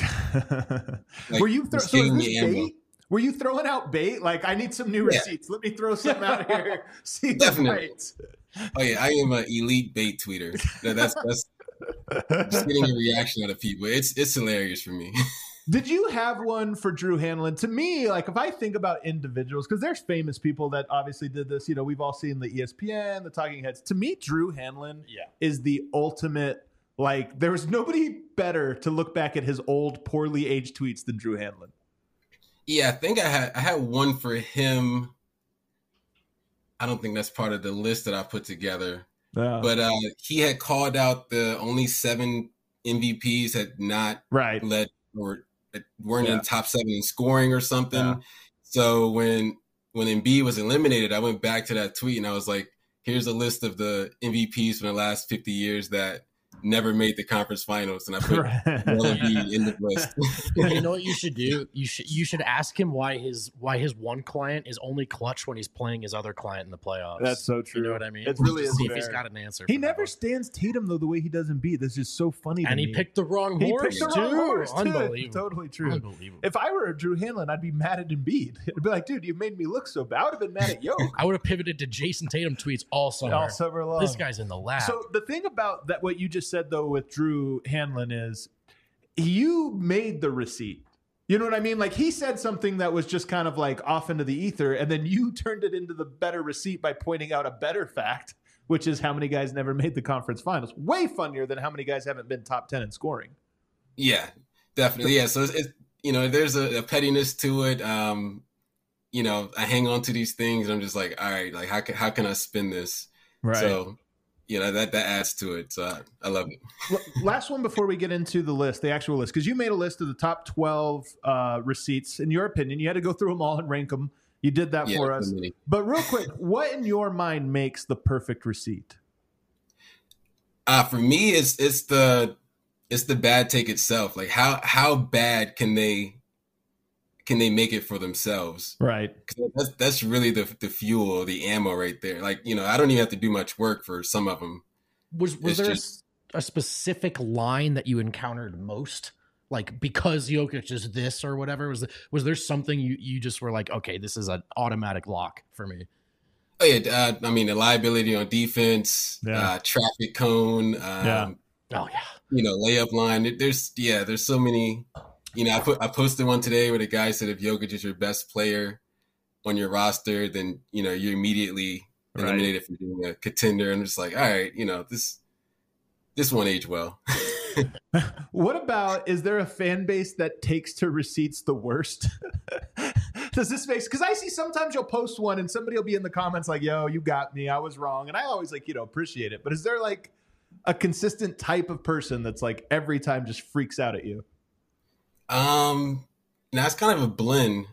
Like, Were you thro- just so is giving this me ammo. bait? Were you throwing out bait? Like, I need some new Yeah. receipts. Let me throw some out here. See if it Definitely. bites. Oh yeah, I am an elite bait tweeter. No, that's that's just getting a reaction out of people. It's it's hilarious for me. Did you have one for Drew Hanlon? To me, like, if I think about individuals, because there's famous people that obviously did this. You know, we've all seen the E S P N, the Talking Heads. To me, Drew Hanlon Yeah. is the ultimate. Like, there was nobody better to look back at his old, poorly aged tweets than Drew Hanlon. Yeah, I think I had I had one for him. I don't think that's part of the list that I put together. Uh, But uh, he had called out the only seven M V Ps had not right. led or weren't Yeah. in top seven in scoring or something. Yeah. So when when Embiid was eliminated, I went back to that tweet and I was like, here's a list of the M V Ps from the last fifty years that never made the conference finals. And I put Right. Joel Embiid in the list. You know what you should do? You should you should ask him why his why his one client is only clutch when he's playing his other client in the playoffs. That's so true. You know what I mean? It really Just is see if he's fair. got an answer. He for that never one. stands Tatum though the way he does Embiid. That's just so funny. and to he me. picked the wrong He horse picked the too. wrong horse, too. Unbelievable. Totally true. Unbelievable. If I were Drew Hanlon, I'd be mad at Embiid. I'd be like, dude, you made me look so bad. I would have been mad at Yoke I would have pivoted to Jason Tatum tweets all summer. all summer long. This guy's in the lab. So the thing about that, what you just said though with Drew Hanlon is, you made the receipt. You know what I mean? Like, he said something that was just kind of like off into the ether, and then you turned it into the better receipt by pointing out a better fact, which is how many guys never made the conference finals. Way funnier than how many guys haven't been top ten in scoring. Yeah, definitely. Yeah. So it's, it's you know, there's a, a pettiness to it. Um, you know, I hang on to these things and I'm just like, all right, like how can, how can I spin this? So, you know, that, that adds to it. So I, I love it. L- Last one before we get into the list, the actual list, because you made a list of the top twelve uh, receipts. In your opinion, you had to go through them all and rank them. You did that Yeah, for us. definitely. But real quick, what in your mind makes the perfect receipt? Uh, for me, it's, it's the, it's the bad take itself. Like how, how bad can they, can they make it for themselves? Right. 'Cause that's, that's really the, the fuel, the ammo right there. Like, you know, I don't even have to do much work for some of them. was was it's there a just- s- a, specific line that you encountered most? Like, because Jokic is this or whatever? Was was there something you, you just were like, okay, this is an automatic lock for me? Oh yeah, uh, I mean the liability on defense, Yeah. uh, traffic cone, um, Yeah. Oh yeah. you know, layup line. There's yeah, there's so many. You know, I put I posted one today where the guy said if Jokic is your best player on your roster, then you know you're immediately Right. eliminated from being a contender. And I'm just like, all right, you know this this won't age well. What about, is there a fan base that takes to receipts the worst? Does this make, because I see sometimes you'll post one and somebody will be in the comments like, yo, you got me, I was wrong. And I always like, you know, appreciate it. But is there like a consistent type of person that's like every time just freaks out at you? Um, now it's kind of a blend.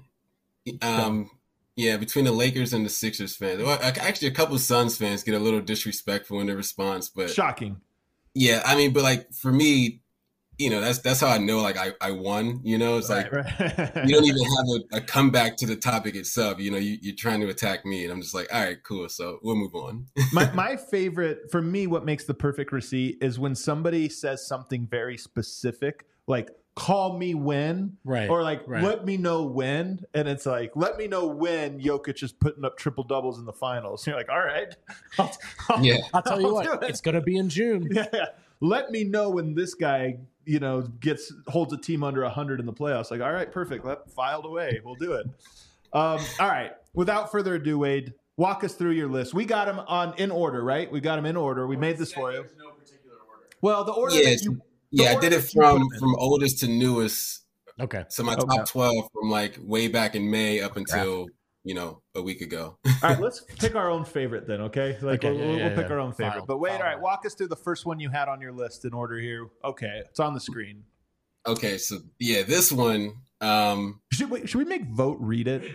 Um, yeah, between the Lakers and the Sixers fans. Well, actually, a couple of Suns fans get a little disrespectful in their response, but shocking. Yeah, I mean, but like for me, you know, that's that's how I know like I, I won. You know, it's Right, like right. you don't even have a, a comeback to the topic itself. You know, you, you're trying to attack me, and I'm just like, all right, cool. So we'll move on. my my favorite for me, what makes the perfect receipt is when somebody says something very specific, like call me when, Right, or like right. let me know when, and it's like let me know when Jokic is putting up triple doubles in the finals. And you're like, all right, I'll, I'll, Yeah. I'll tell you I'll what, do it. it's going to be in June. Yeah, yeah. Let me know when this guy, you know, gets holds a team under one hundred in the playoffs. Like, all right, perfect. Let filed away. We'll do it. Um, all right. Without further ado, Wade, walk us through your list. We got them on in order, right? We got them in order. We made this for you. There's no particular order. Well, the order Yeah, that you, the yeah, I order did it that you put from them in. from oldest to newest. Okay. So my Okay. top twelve from like way back in May up until you know a week ago. All right, let's pick our own favorite then, okay? Like Okay, we'll, yeah, we'll yeah, pick yeah. our own favorite. File- but wait, file all right, that. walk us through the first one you had on your list in order here. Okay, it's on the screen. Okay, so yeah, this one. Um, Should we, should we make vote read it?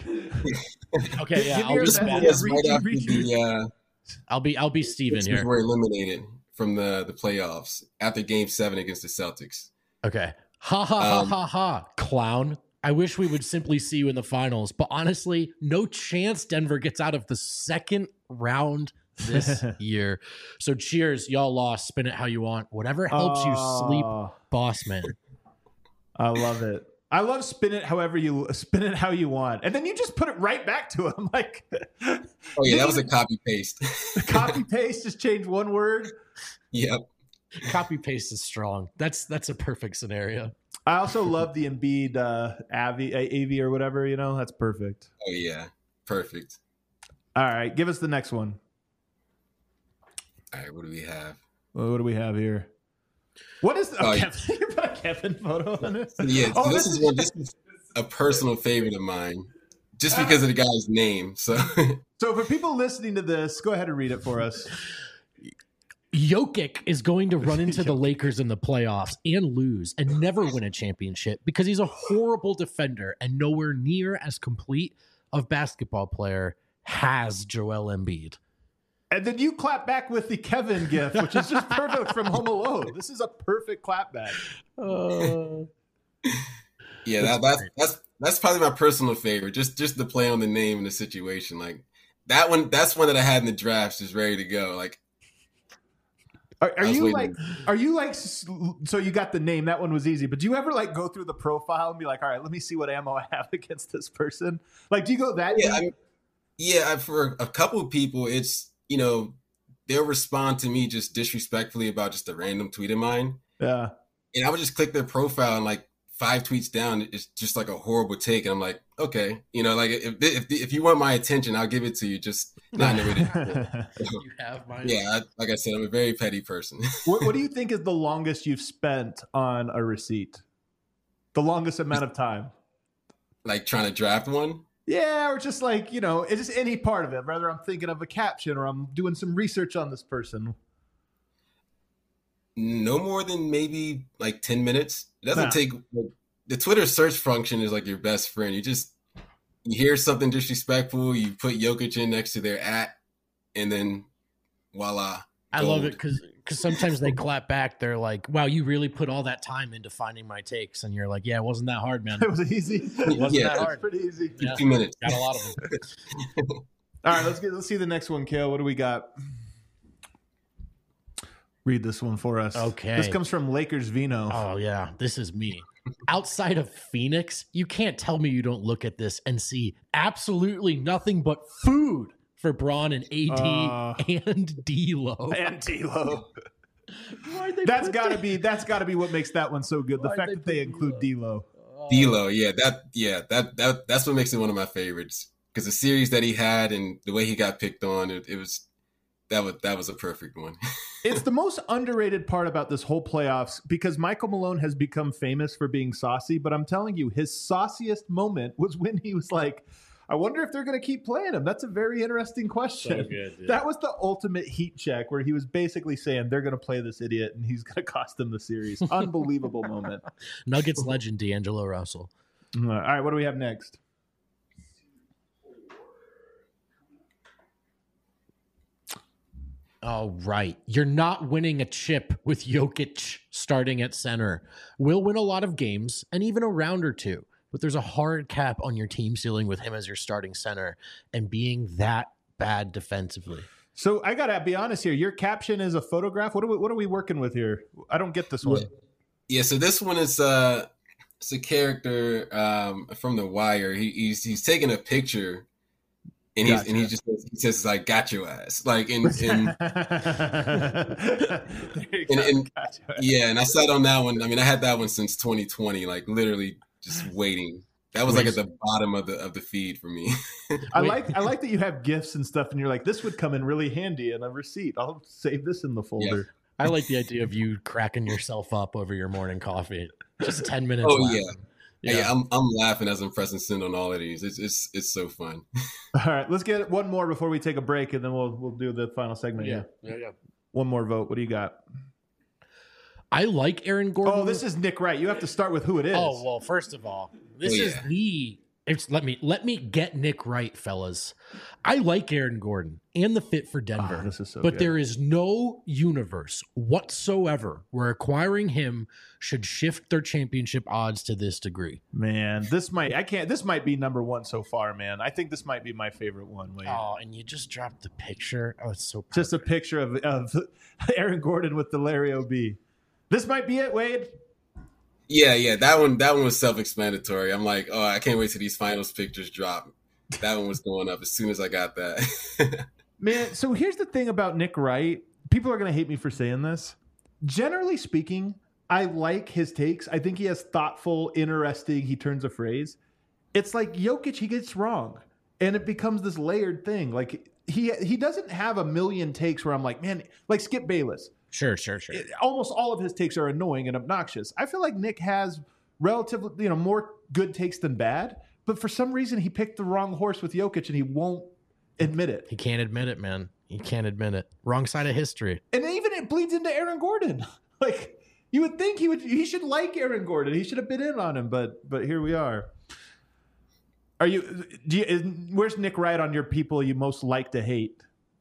Okay, yeah, Give me I'll your be this best- one Steven. yeah, was read- right after read- the uh, I'll be I'll be Steven Sixers here. were eliminated from the the playoffs after Game Seven against the Celtics. Okay. Ha ha ha Um, ha ha, clown. I wish we would simply see you in the finals, but honestly, no chance Denver gets out of the second round this year. So cheers, y'all lost. Spin it how you want. Whatever helps you sleep, Oh, boss man. I love it. I love spin it however you spin it how you want, and then you just put it right back to him. Like, Oh yeah, that was a copy paste. copy paste, just change one word. Yep. Copy paste is strong. That's that's a perfect scenario. I also love the Embiid uh, Avi, A V or whatever. You know, that's perfect. Oh yeah, perfect. All right, give us the next one. All right, what do we have? Well, what do we have here? What is the, oh, Oh, yeah. Kevin, you put a Kevin photo on it? Yeah, Oh, this, this is is- one. This is a personal favorite of mine, just because of the guy's name. So So for people listening to this, go ahead and read it for us. Jokic is going to run into the Lakers in the playoffs and lose and never win a championship because he's a horrible defender and nowhere near as complete of basketball player has Joel Embiid. And then you clap back with the Kevin gif, which is just perfect from Home Alone. This is a perfect clap back. Uh, yeah, that, that's that's that's probably my personal favorite. Just just the play on the name and the situation. Like that one. That's one that I had in the draft, just ready to go. Like. Are, are I was you waiting. like, are you like, s- so you got the name, that one was easy, but do you ever like go through the profile and be like, all right, let me see what ammo I have against this person? Like, do you go that Yeah, deep? I mean, yeah. I- For a couple of people, it's you know they'll respond to me just disrespectfully about just a random tweet of mine, Yeah. and I would just click their profile and like five tweets down, it's just like a horrible take, and I'm like, okay, you know, like if if if you want my attention, I'll give it to you. Just not in a way to, you have mine. yeah. I, like I said, I'm a very petty person. what, what do you think is the longest you've spent on a receipt? The longest amount of time? Like trying to draft one. Yeah, or just like, you know, it's just any part of it. Whether I'm thinking of a caption or I'm doing some research on this person. No more than maybe like ten minutes. It doesn't Nah. take like, the Twitter search function is like your best friend. You just you hear something disrespectful, you put Jokic in next to their at, and then voila. I love gold. it because because sometimes they clap back. They're like, "Wow, you really put all that time into finding my takes," and you're like, "Yeah, it wasn't that hard, man. It was easy. It wasn't Yeah. that It was hard. pretty easy. Yeah. Two minutes. Got a lot of them." All right, let's get let's see the next one, Kale. What do we got? Read this one for us. Okay. This comes from Lakers Vino. Oh yeah, this is me. Outside of Phoenix, you can't tell me you don't look at this and see absolutely nothing but food for Braun and A D Uh. and D'Lo. And D'Lo. Why'd they That's put got to that- be that's got to be what makes that one so good. The Why'd fact they that they put include D'Lo. D'Lo, yeah, that yeah, that that that's what makes it one of my favorites. Because the series that he had and the way he got picked on, it, it was that was that was a perfect one. It's the most underrated part about this whole playoffs because Michael Malone has become famous for being saucy, but I'm telling you, his sauciest moment was when he was like, I wonder if they're going to keep playing him. That's a very interesting question. So good, yeah. That was the ultimate heat check where he was basically saying they're going to play this idiot and he's going to cost them the series. Unbelievable moment. Nuggets legend D'Angelo Russell. All right, what do we have next? Oh, right. You're not winning a chip with Jokic starting at center. We'll win a lot of games and even a round or two, but there's a hard cap on your team ceiling with him as your starting center and being that bad defensively. So I got to be honest here. Your caption is a photograph. What are we, what are we working with here? I don't get this one. Yeah, so this one is uh, it's a character um, from The Wire. He, he's he's taking a picture. And he's gotcha. and he just says, he says like got your ass like in in, and, and gotcha. yeah, and I sat on that one. I mean, I had that one since twenty twenty, like literally just waiting. That was like at the bottom of the of the feed for me. I like I like that you have gifts and stuff, and you're like, this would come in really handy in a receipt. I'll save this in the folder. Yeah. I like the idea of you cracking yourself up over your morning coffee. Just ten minutes. Oh laughing. yeah. Yeah, yeah, I'm I'm laughing as I'm pressing send on all of these. It's it's it's so fun. All right, let's get one more before we take a break, and then we'll we'll do the final segment. Yeah, here. yeah, yeah. One more vote. What do you got? I like Aaron Gordon. Oh, this is Nick Wright. You have to start with who it is. Oh well, first of all, this Oh, yeah. is the. It's, let me let me get Nick right, fellas. I like Aaron Gordon and the fit for Denver, Oh, this is so but good. there is no universe whatsoever where acquiring him should shift their championship odds to this degree. Man, this might I can't. This might be number one so far, man. I think this might be my favorite one. Wait. Oh, and you just dropped the picture. Oh, it's so perfect. Just a picture of of Aaron Gordon with the Larry O B. This might be it, Wade. Yeah, yeah, that one that one was self-explanatory. I'm like, oh, I can't wait till these finals pictures drop. That one was going up as soon as I got that. Man, so here's the thing about Nick Wright. People are going to hate me for saying this. Generally speaking, I like his takes. I think he has thoughtful, interesting, he turns a phrase. It's like Jokic, he gets wrong. And it becomes this layered thing. Like he he doesn't have a million takes where I'm like, man, like Skip Bayless. Sure, sure, sure. It- almost all of his takes are annoying and obnoxious. I feel like Nick has relatively, you know, more good takes than bad. But for some reason, he picked the wrong horse with Jokic, and he won't admit it. He can't admit it, man. He can't admit it. Wrong side of history. And even it bleeds into Aaron Gordon. Like you would think he would, he should like Aaron Gordon. He should have been in on him, but but here we are. Are you? Do you? Is, where's Nick Wright on your people you most like to hate?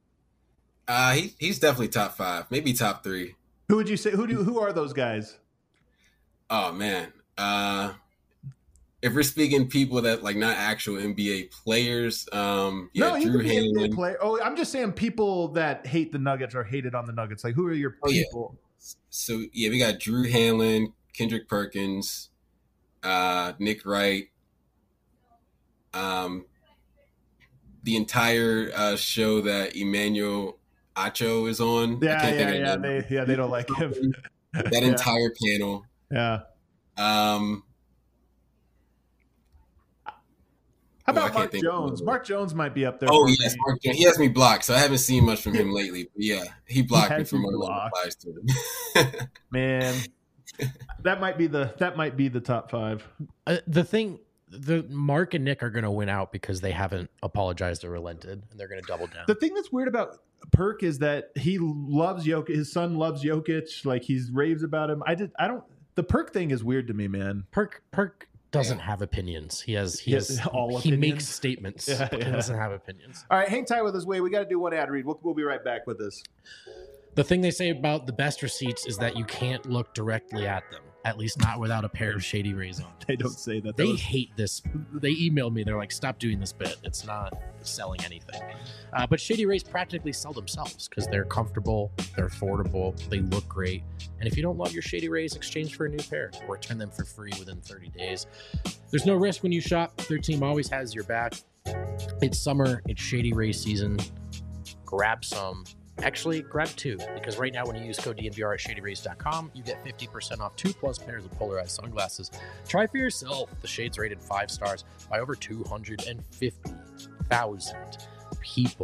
uh, he he's definitely top five, maybe top three. Who would you say? Who do? Who are those guys? Oh man, uh, if we're speaking people that like not actual N B A players, um, yeah, no, you Drew could be a N B A Hanlon. player. Oh, I'm just saying people that hate the Nuggets or hated on the Nuggets. Like, who are your Oh, yeah. people? So yeah, we got Drew Hanlon, Kendrick Perkins, uh, Nick Wright, um, the entire uh, show that Emmanuel Acho is on. I Yeah, can't yeah, think of yeah. the name. They, yeah, they don't like him. That Yeah. entire panel. Yeah. Um, How Oh, I about can't Mark think of Jones? it. Mark Jones might be up there. oh for yes, me. Mark Jones. He has me blocked, so I haven't seen much from him lately. But yeah, he blocked me has from you other blocked. replies to him. Man, that might be the that might be the top five. Uh, the thing, the Mark and Nick are going to win out because they haven't apologized or relented, and they're going to double down. The thing that's weird about Perk is that he loves Jokic. His son loves Jokic. Like he's raves about him. I did. I don't. The Perk thing is weird to me, man. Perk Perk doesn't Yeah. have opinions. He has he He has has all he opinions? makes statements. Yeah, but yeah. He doesn't have opinions. All right, hang tight with us, Wade. We got to do one ad read. We'll, we'll be right back with this. The thing they say about the best receipts is that you can't look directly at them, at least not without a pair of Shady Rays on. They don't say that. They Those- hate this. They emailed me. They're like, "Stop doing this bit. It's not selling anything." Uh, but Shady Rays practically sell themselves because they're comfortable, they're affordable, they look great. And if you don't love your Shady Rays, exchange for a new pair or return them for free within thirty days. There's no risk when you shop. Their team always has your back. It's summer. It's Shady Rays season. Grab some. Actually, grab two, because right now when you use code D N V R at shady rays dot com, you get fifty percent off two plus pairs of polarized sunglasses. Try for yourself. The shades rated five stars by over two hundred fifty thousand people.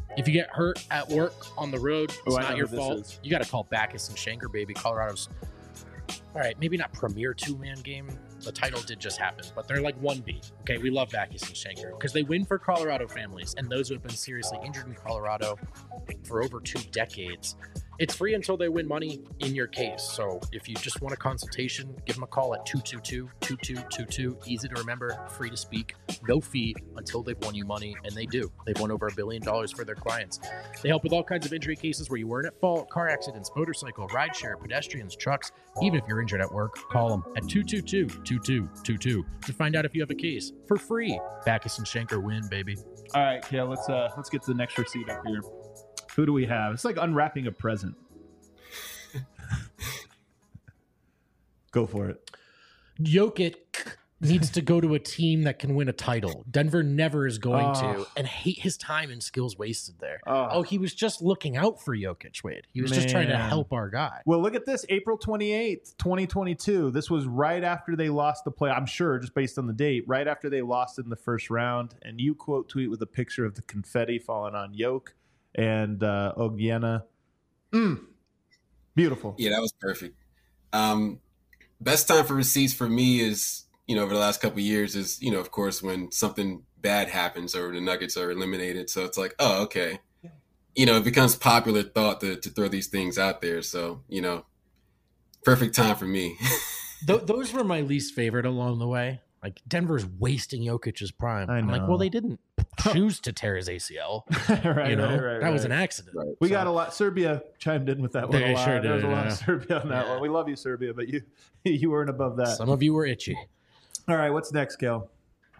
If you get hurt at work on the road, it's Oh, I know not your who this fault. is. You got to call Backus and Shanker, baby. Colorado's, all right, maybe not premier two-man game. The title did just happen, but they're like one B. Okay, we love Backus and Shanker because they win for Colorado families and those who have been seriously injured in Colorado for over two decades. It's free until they win money in your case. So if you just want a consultation, give them a call at two two two, two two two two. Easy to remember, free to speak, no fee until they've won you money, and they do. They've won over a billion dollars for their clients. They help with all kinds of injury cases where you weren't at fault, car accidents, motorcycle, rideshare, pedestrians, trucks. Even if you're injured at work, call them at two two two, two two two two to find out if you have a case for free. Backus and Shanker win, baby. All right, Kale, let's uh let's get to the next receipt up here. Who do we have? It's like unwrapping a present. Go for it. Jokic needs to go to a team that can win a title. Denver never is going Oh. to, and hate his time and skills wasted there. Oh. Oh, he was just looking out for Jokic, Wade. He was just trying to Man. help our guy. Well, look at this. April twenty-eighth, twenty twenty-two. This was right after they lost the play. I'm sure, just based on the date, right after they lost in the first round. And you quote tweet with a picture of the confetti falling on Yoke and uh, Ogiena. Mm. Beautiful. Yeah, that was perfect. Um, best time for receipts for me is, you know, over the last couple of years is, you know, of course, when something bad happens or the Nuggets are eliminated. So it's like, oh, okay. You know, it becomes popular thought to, to throw these things out there. So, you know, perfect time for me. Th- those were my least favorite along the way. Like, Denver's wasting Jokic's prime. I I'm like, know. well, they didn't choose to tear his A C L. right, you know, right, right, that was right. an accident. Right. We So- got a lot. Serbia chimed in with that one. They a lot. sure There was a did, lot yeah. of Serbia on that Yeah. one. We love you, Serbia, but you you weren't above that. Some of you were itchy. All right, what's next, Kel?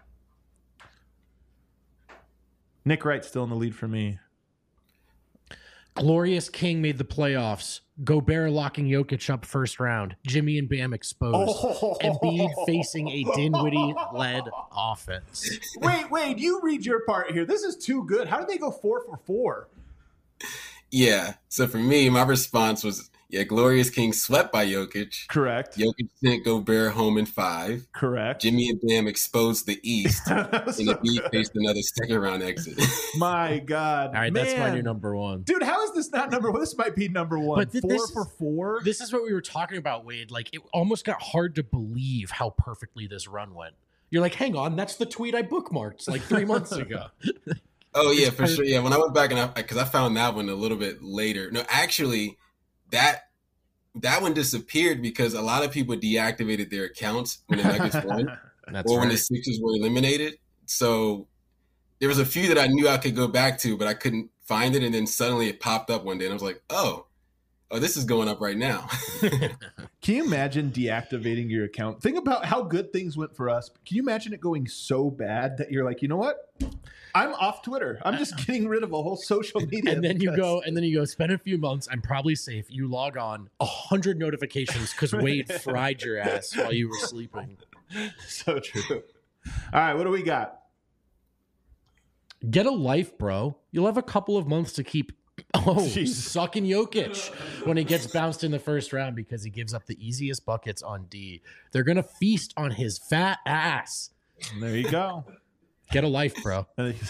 Nick Wright's still in the lead for me. Glorious King made the playoffs. Gobert locking Jokic up first round. Jimmy and Bam exposed. Embiid facing a Dinwiddie-led offense. Wait, wait, you read your part here. This is too good. How did they go four for four? Yeah. So for me, my response was, yeah, Glorious King swept by Jokic. Correct. Jokic sent Gobert home in five. Correct. Jimmy and Bam exposed the East. That was And so the Beat good. faced another second round exit. My God. All right, that's my Man. new number one. Dude, how is this not number one? This might be number one. But th- four this for is- four? This is what we were talking about, Wade. Like, it almost got hard to believe how perfectly this run went. You're like, hang on, that's the tweet I bookmarked like three months ago. Oh yeah, It's for part- sure. Yeah, when I went back and I, because I found that one a little bit later. No, actually, that that one disappeared because a lot of people deactivated their accounts when the Nuggets won, That's or when right. the Sixers were eliminated. So there was a few that I knew I could go back to, but I couldn't find it. And then suddenly it popped up one day, and I was like, oh, oh, this is going up right now. Can you imagine deactivating your account? Think about how good things went for us. Can you imagine it going so bad that you're like, you know what? I'm off Twitter. I'm just getting rid of a whole social media. And then you because- go, and then you go, spend a few months. I'm probably safe. You log on, a hundred notifications because Wade fried your ass while you were sleeping. So true. All right, what do we got? Get a life, bro. You'll have a couple of months to keep. Oh, Jeez. sucking Jokic when he gets bounced in the first round because he gives up the easiest buckets on D. They're gonna feast on his fat ass. There you go. Get a life, bro.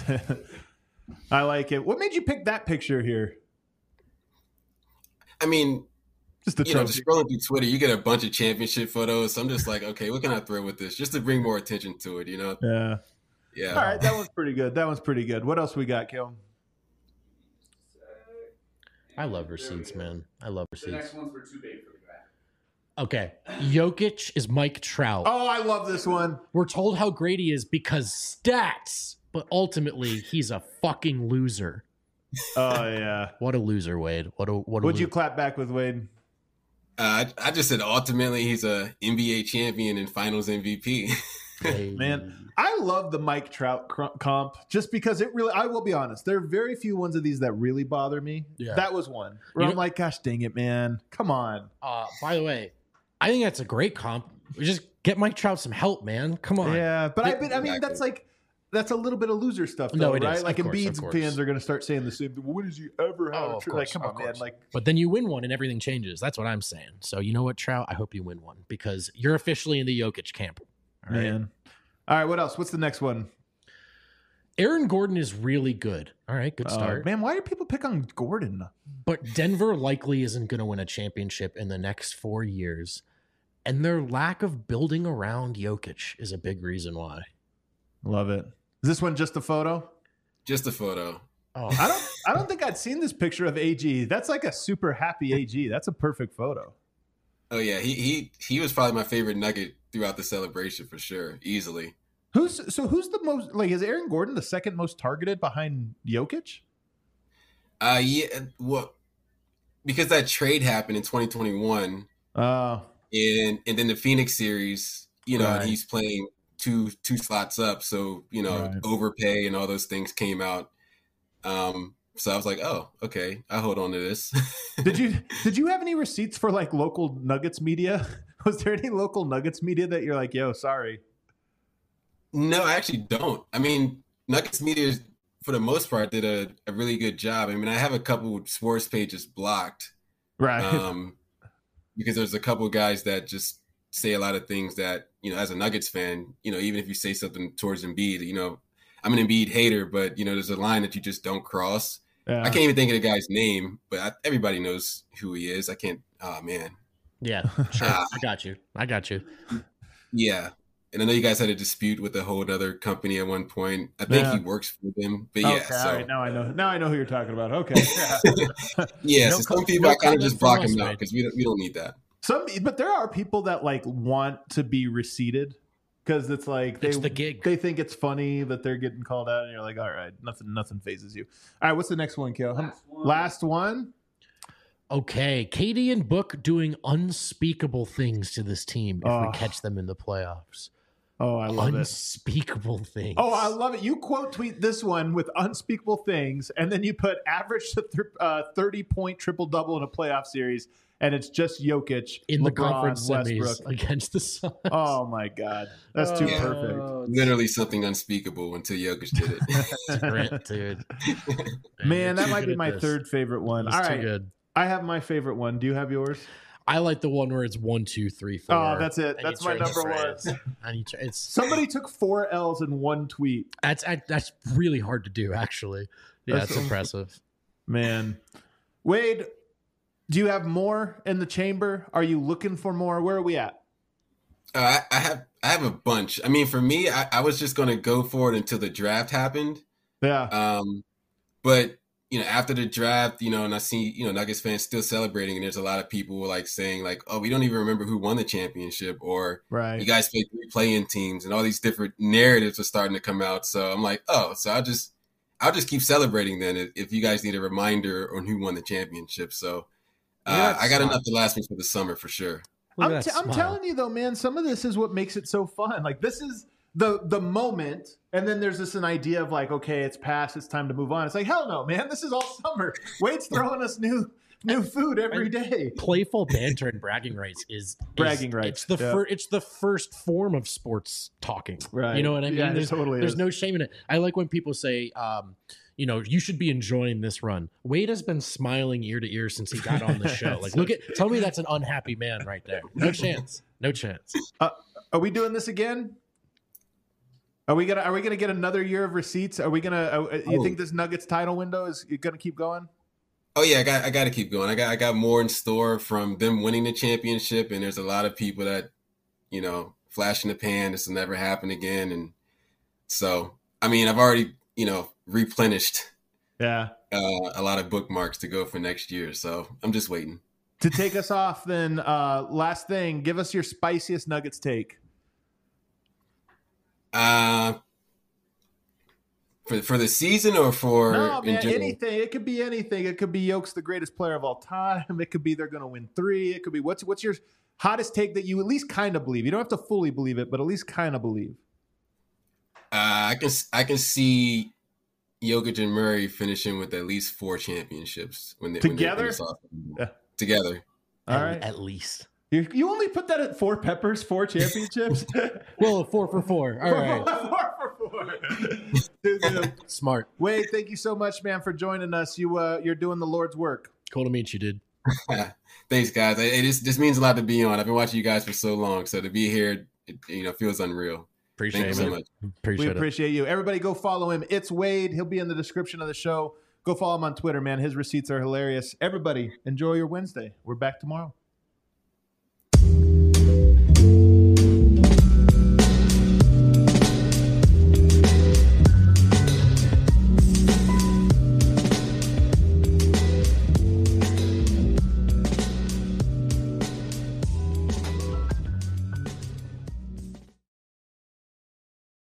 I like it. What made you pick that picture here? I mean, Just the you know, trophy. just scrolling through Twitter, you get a bunch of championship photos. So I'm just like, okay, what can I throw with this? Just to bring more attention to it, you know? Yeah. Yeah. All right, that one's pretty good. That one's pretty good. What else we got, Kel? I love receipts, man. I love The receipts. next ones were too big for the graph. Okay, Jokic is Mike Trout. Oh, I love this one. We're told how great he is because stats, but ultimately he's a fucking loser. Oh yeah. What a loser, Wade. What a what a Would you lo- clap back with Wade? Uh, I, I just said ultimately he's a N B A champion and Finals M V P. Wade. Man, I love the Mike Trout cr- comp just because it really, I will be honest, there are very few ones of these that really bother me. Yeah. That was one where You I'm know- like, gosh dang it, man. Come on. Uh, by the way, I think that's a great comp. We just get Mike Trout some help, man. Come on. Yeah, but I, Yeah, but, I mean, exactly. that's like, that's a little bit of loser stuff, No, though, it is. right? Of Like course, Embiid's of course. fans are going to start saying the same thing. When does he ever have Oh, a of tr-" Like, course, come of on, man. course. Like, But then you win one and everything changes. That's what I'm saying. So you know what, Trout? I hope you win one because you're officially in the Jokic camp. All right. man. All right, what else? What's the next one? Aaron Gordon is really good. All right, good Uh, start. man, why do people pick on Gordon? But Denver likely isn't going to win a championship in the next four years. And their lack of building around Jokic is a big reason why. Love it. Is this one just a photo? Just a photo. Oh, I don't I don't think I'd seen this picture of A G. That's like a super happy A G. That's a perfect photo. Oh yeah, he he he was probably my favorite Nugget throughout the celebration for sure, easily. Who's so who's the most like is Aaron Gordon the second most targeted behind Jokic? Uh yeah, well, because that trade happened in twenty twenty-one, Uh and and then the Phoenix series, you know, Right. and he's playing two two slots up, so you know, Right. overpay and all those things came out. Um, so I was like, oh, okay, I hold on to this. did you did you have any receipts for like local Nuggets media? Was there any local Nuggets media that you're like, yo, sorry? No, I actually don't. I mean, Nuggets media, for the most part, did a, a really good job. I mean, I have a couple sports pages blocked, Right. um, because there's a couple guys that just say a lot of things that, you know, as a Nuggets fan, you know, even if you say something towards Embiid, you know, I'm an Embiid hater, but, you know, there's a line that you just don't cross. Yeah. I can't even think of the guy's name, but I, everybody knows who he is. I can't, oh, man. yeah, sure. I got you. I got you. Yeah. And I know you guys had a dispute with a whole other company at one point. I think Yeah. he works for them, but yeah. Okay, so all right, now I know. Now I know who you're talking about. Okay. Yeah. yeah, No so co- some people no I kind of comment just from block us, him out mate. because we don't we don't need that. Some, but there are people that like want to be receded because it's like they It's the gig. they think it's funny that they're getting called out, and you're like, all right, nothing nothing phases you. All right, what's the next one, Kale? Last one. Last one. Okay, Katie and Book doing unspeakable things to this team if Oh. we catch them in the playoffs. Oh, I love it. Unspeakable things. Oh, I love it. You quote tweet this one with unspeakable things, and then you put average to th- uh, thirty point triple double in a playoff series, and it's just Jokic in the LeBron, conference semis Westbrook. against the Suns. Oh my God, that's too Oh, perfect. Literally something unspeakable until Jokic did it. It's great, dude. Man, that you're might too be good my at this. third favorite one. He's All too right, good. I have my favorite one. Do you have yours? I like the one where it's one, two, three, four. Oh, that's it. and you That's my turn the number one. phrase. And you turn- it's Somebody took four L's in one tweet. that's that's really hard to do, actually. Yeah, That's- it's impressive. Man, Wade, do you have more in the chamber? Are you looking for more? Where are we at? Uh, I, I have I have a bunch. I mean, for me, I, I was just gonna go for it until the draft happened. Yeah, Um, but you know, after the draft, you know, and I see, you know, Nuggets fans still celebrating, and there's a lot of people like saying like, "Oh, we don't even remember who won the championship," or "You right. guys played three play-in teams," and all these different narratives are starting to come out. So I'm like, "Oh, so I'll just I'll just keep celebrating then if, if you guys need a reminder on who won the championship." So uh, Yeah, I got smart. enough to last me for the summer for sure. Look I'm, at t- that I'm smile. telling you though, man, some of this is what makes it so fun. Like this is the the moment, and then there's this an idea of like, okay, it's past, it's time to move on. It's like, hell no, man, this is all summer. Wade's throwing us new new food every day. Playful banter and bragging rights is, is Bragging rights, It's the yeah. fir- it's the first form of sports talking. Right. You know what I mean? Yeah, it there's totally there's is. no shame in it. I like when people say, um, you know, you should be enjoying this run. Wade has been smiling ear to ear since he got on the show. Like, look at, tell me that's an unhappy man right there. No chance. No chance. Are we doing this again? Are we gonna Are we gonna get another year of receipts? Are we gonna? Uh, you Oh. think this Nuggets title window is gonna keep going? Oh yeah, I got I got to keep going. I got I got more in store from them winning the championship, and there's a lot of people that, you know, flash in the pan. This will never happen again, and so I mean, I've already, you know, replenished Yeah. uh, a lot of bookmarks to go for next year. So I'm just waiting. To take us off, then, uh, last thing, give us your spiciest Nuggets take. Uh, for for the season or for No, in man, general? anything. It could be anything. It could be Yoke's the greatest player of all time. It could be they're going to win three. It could be what's what's your hottest take that you at least kind of believe. You don't have to fully believe it, but at least kind of believe. Uh, I can I can see Jokic and Murray finishing with at least four championships when they Together? When they finish off. Yeah. Together. All at, right. At least. You, you only put that at four peppers, four championships. Well, four for four. All right. four for four. Dude, dude. Smart. Wade, thank you so much, man, for joining us. You uh, you're doing the Lord's work. Cool to meet you, dude. Thanks, guys. It, it is, this means a lot to be on. I've been watching you guys for so long, so to be here, it, you know, feels unreal. Appreciate Thank it. you so much. Appreciate We it. appreciate you. Everybody go follow him. It's Wade. He'll be in the description of the show. Go follow him on Twitter, man. His receipts are hilarious. Everybody, enjoy your Wednesday. We're back tomorrow.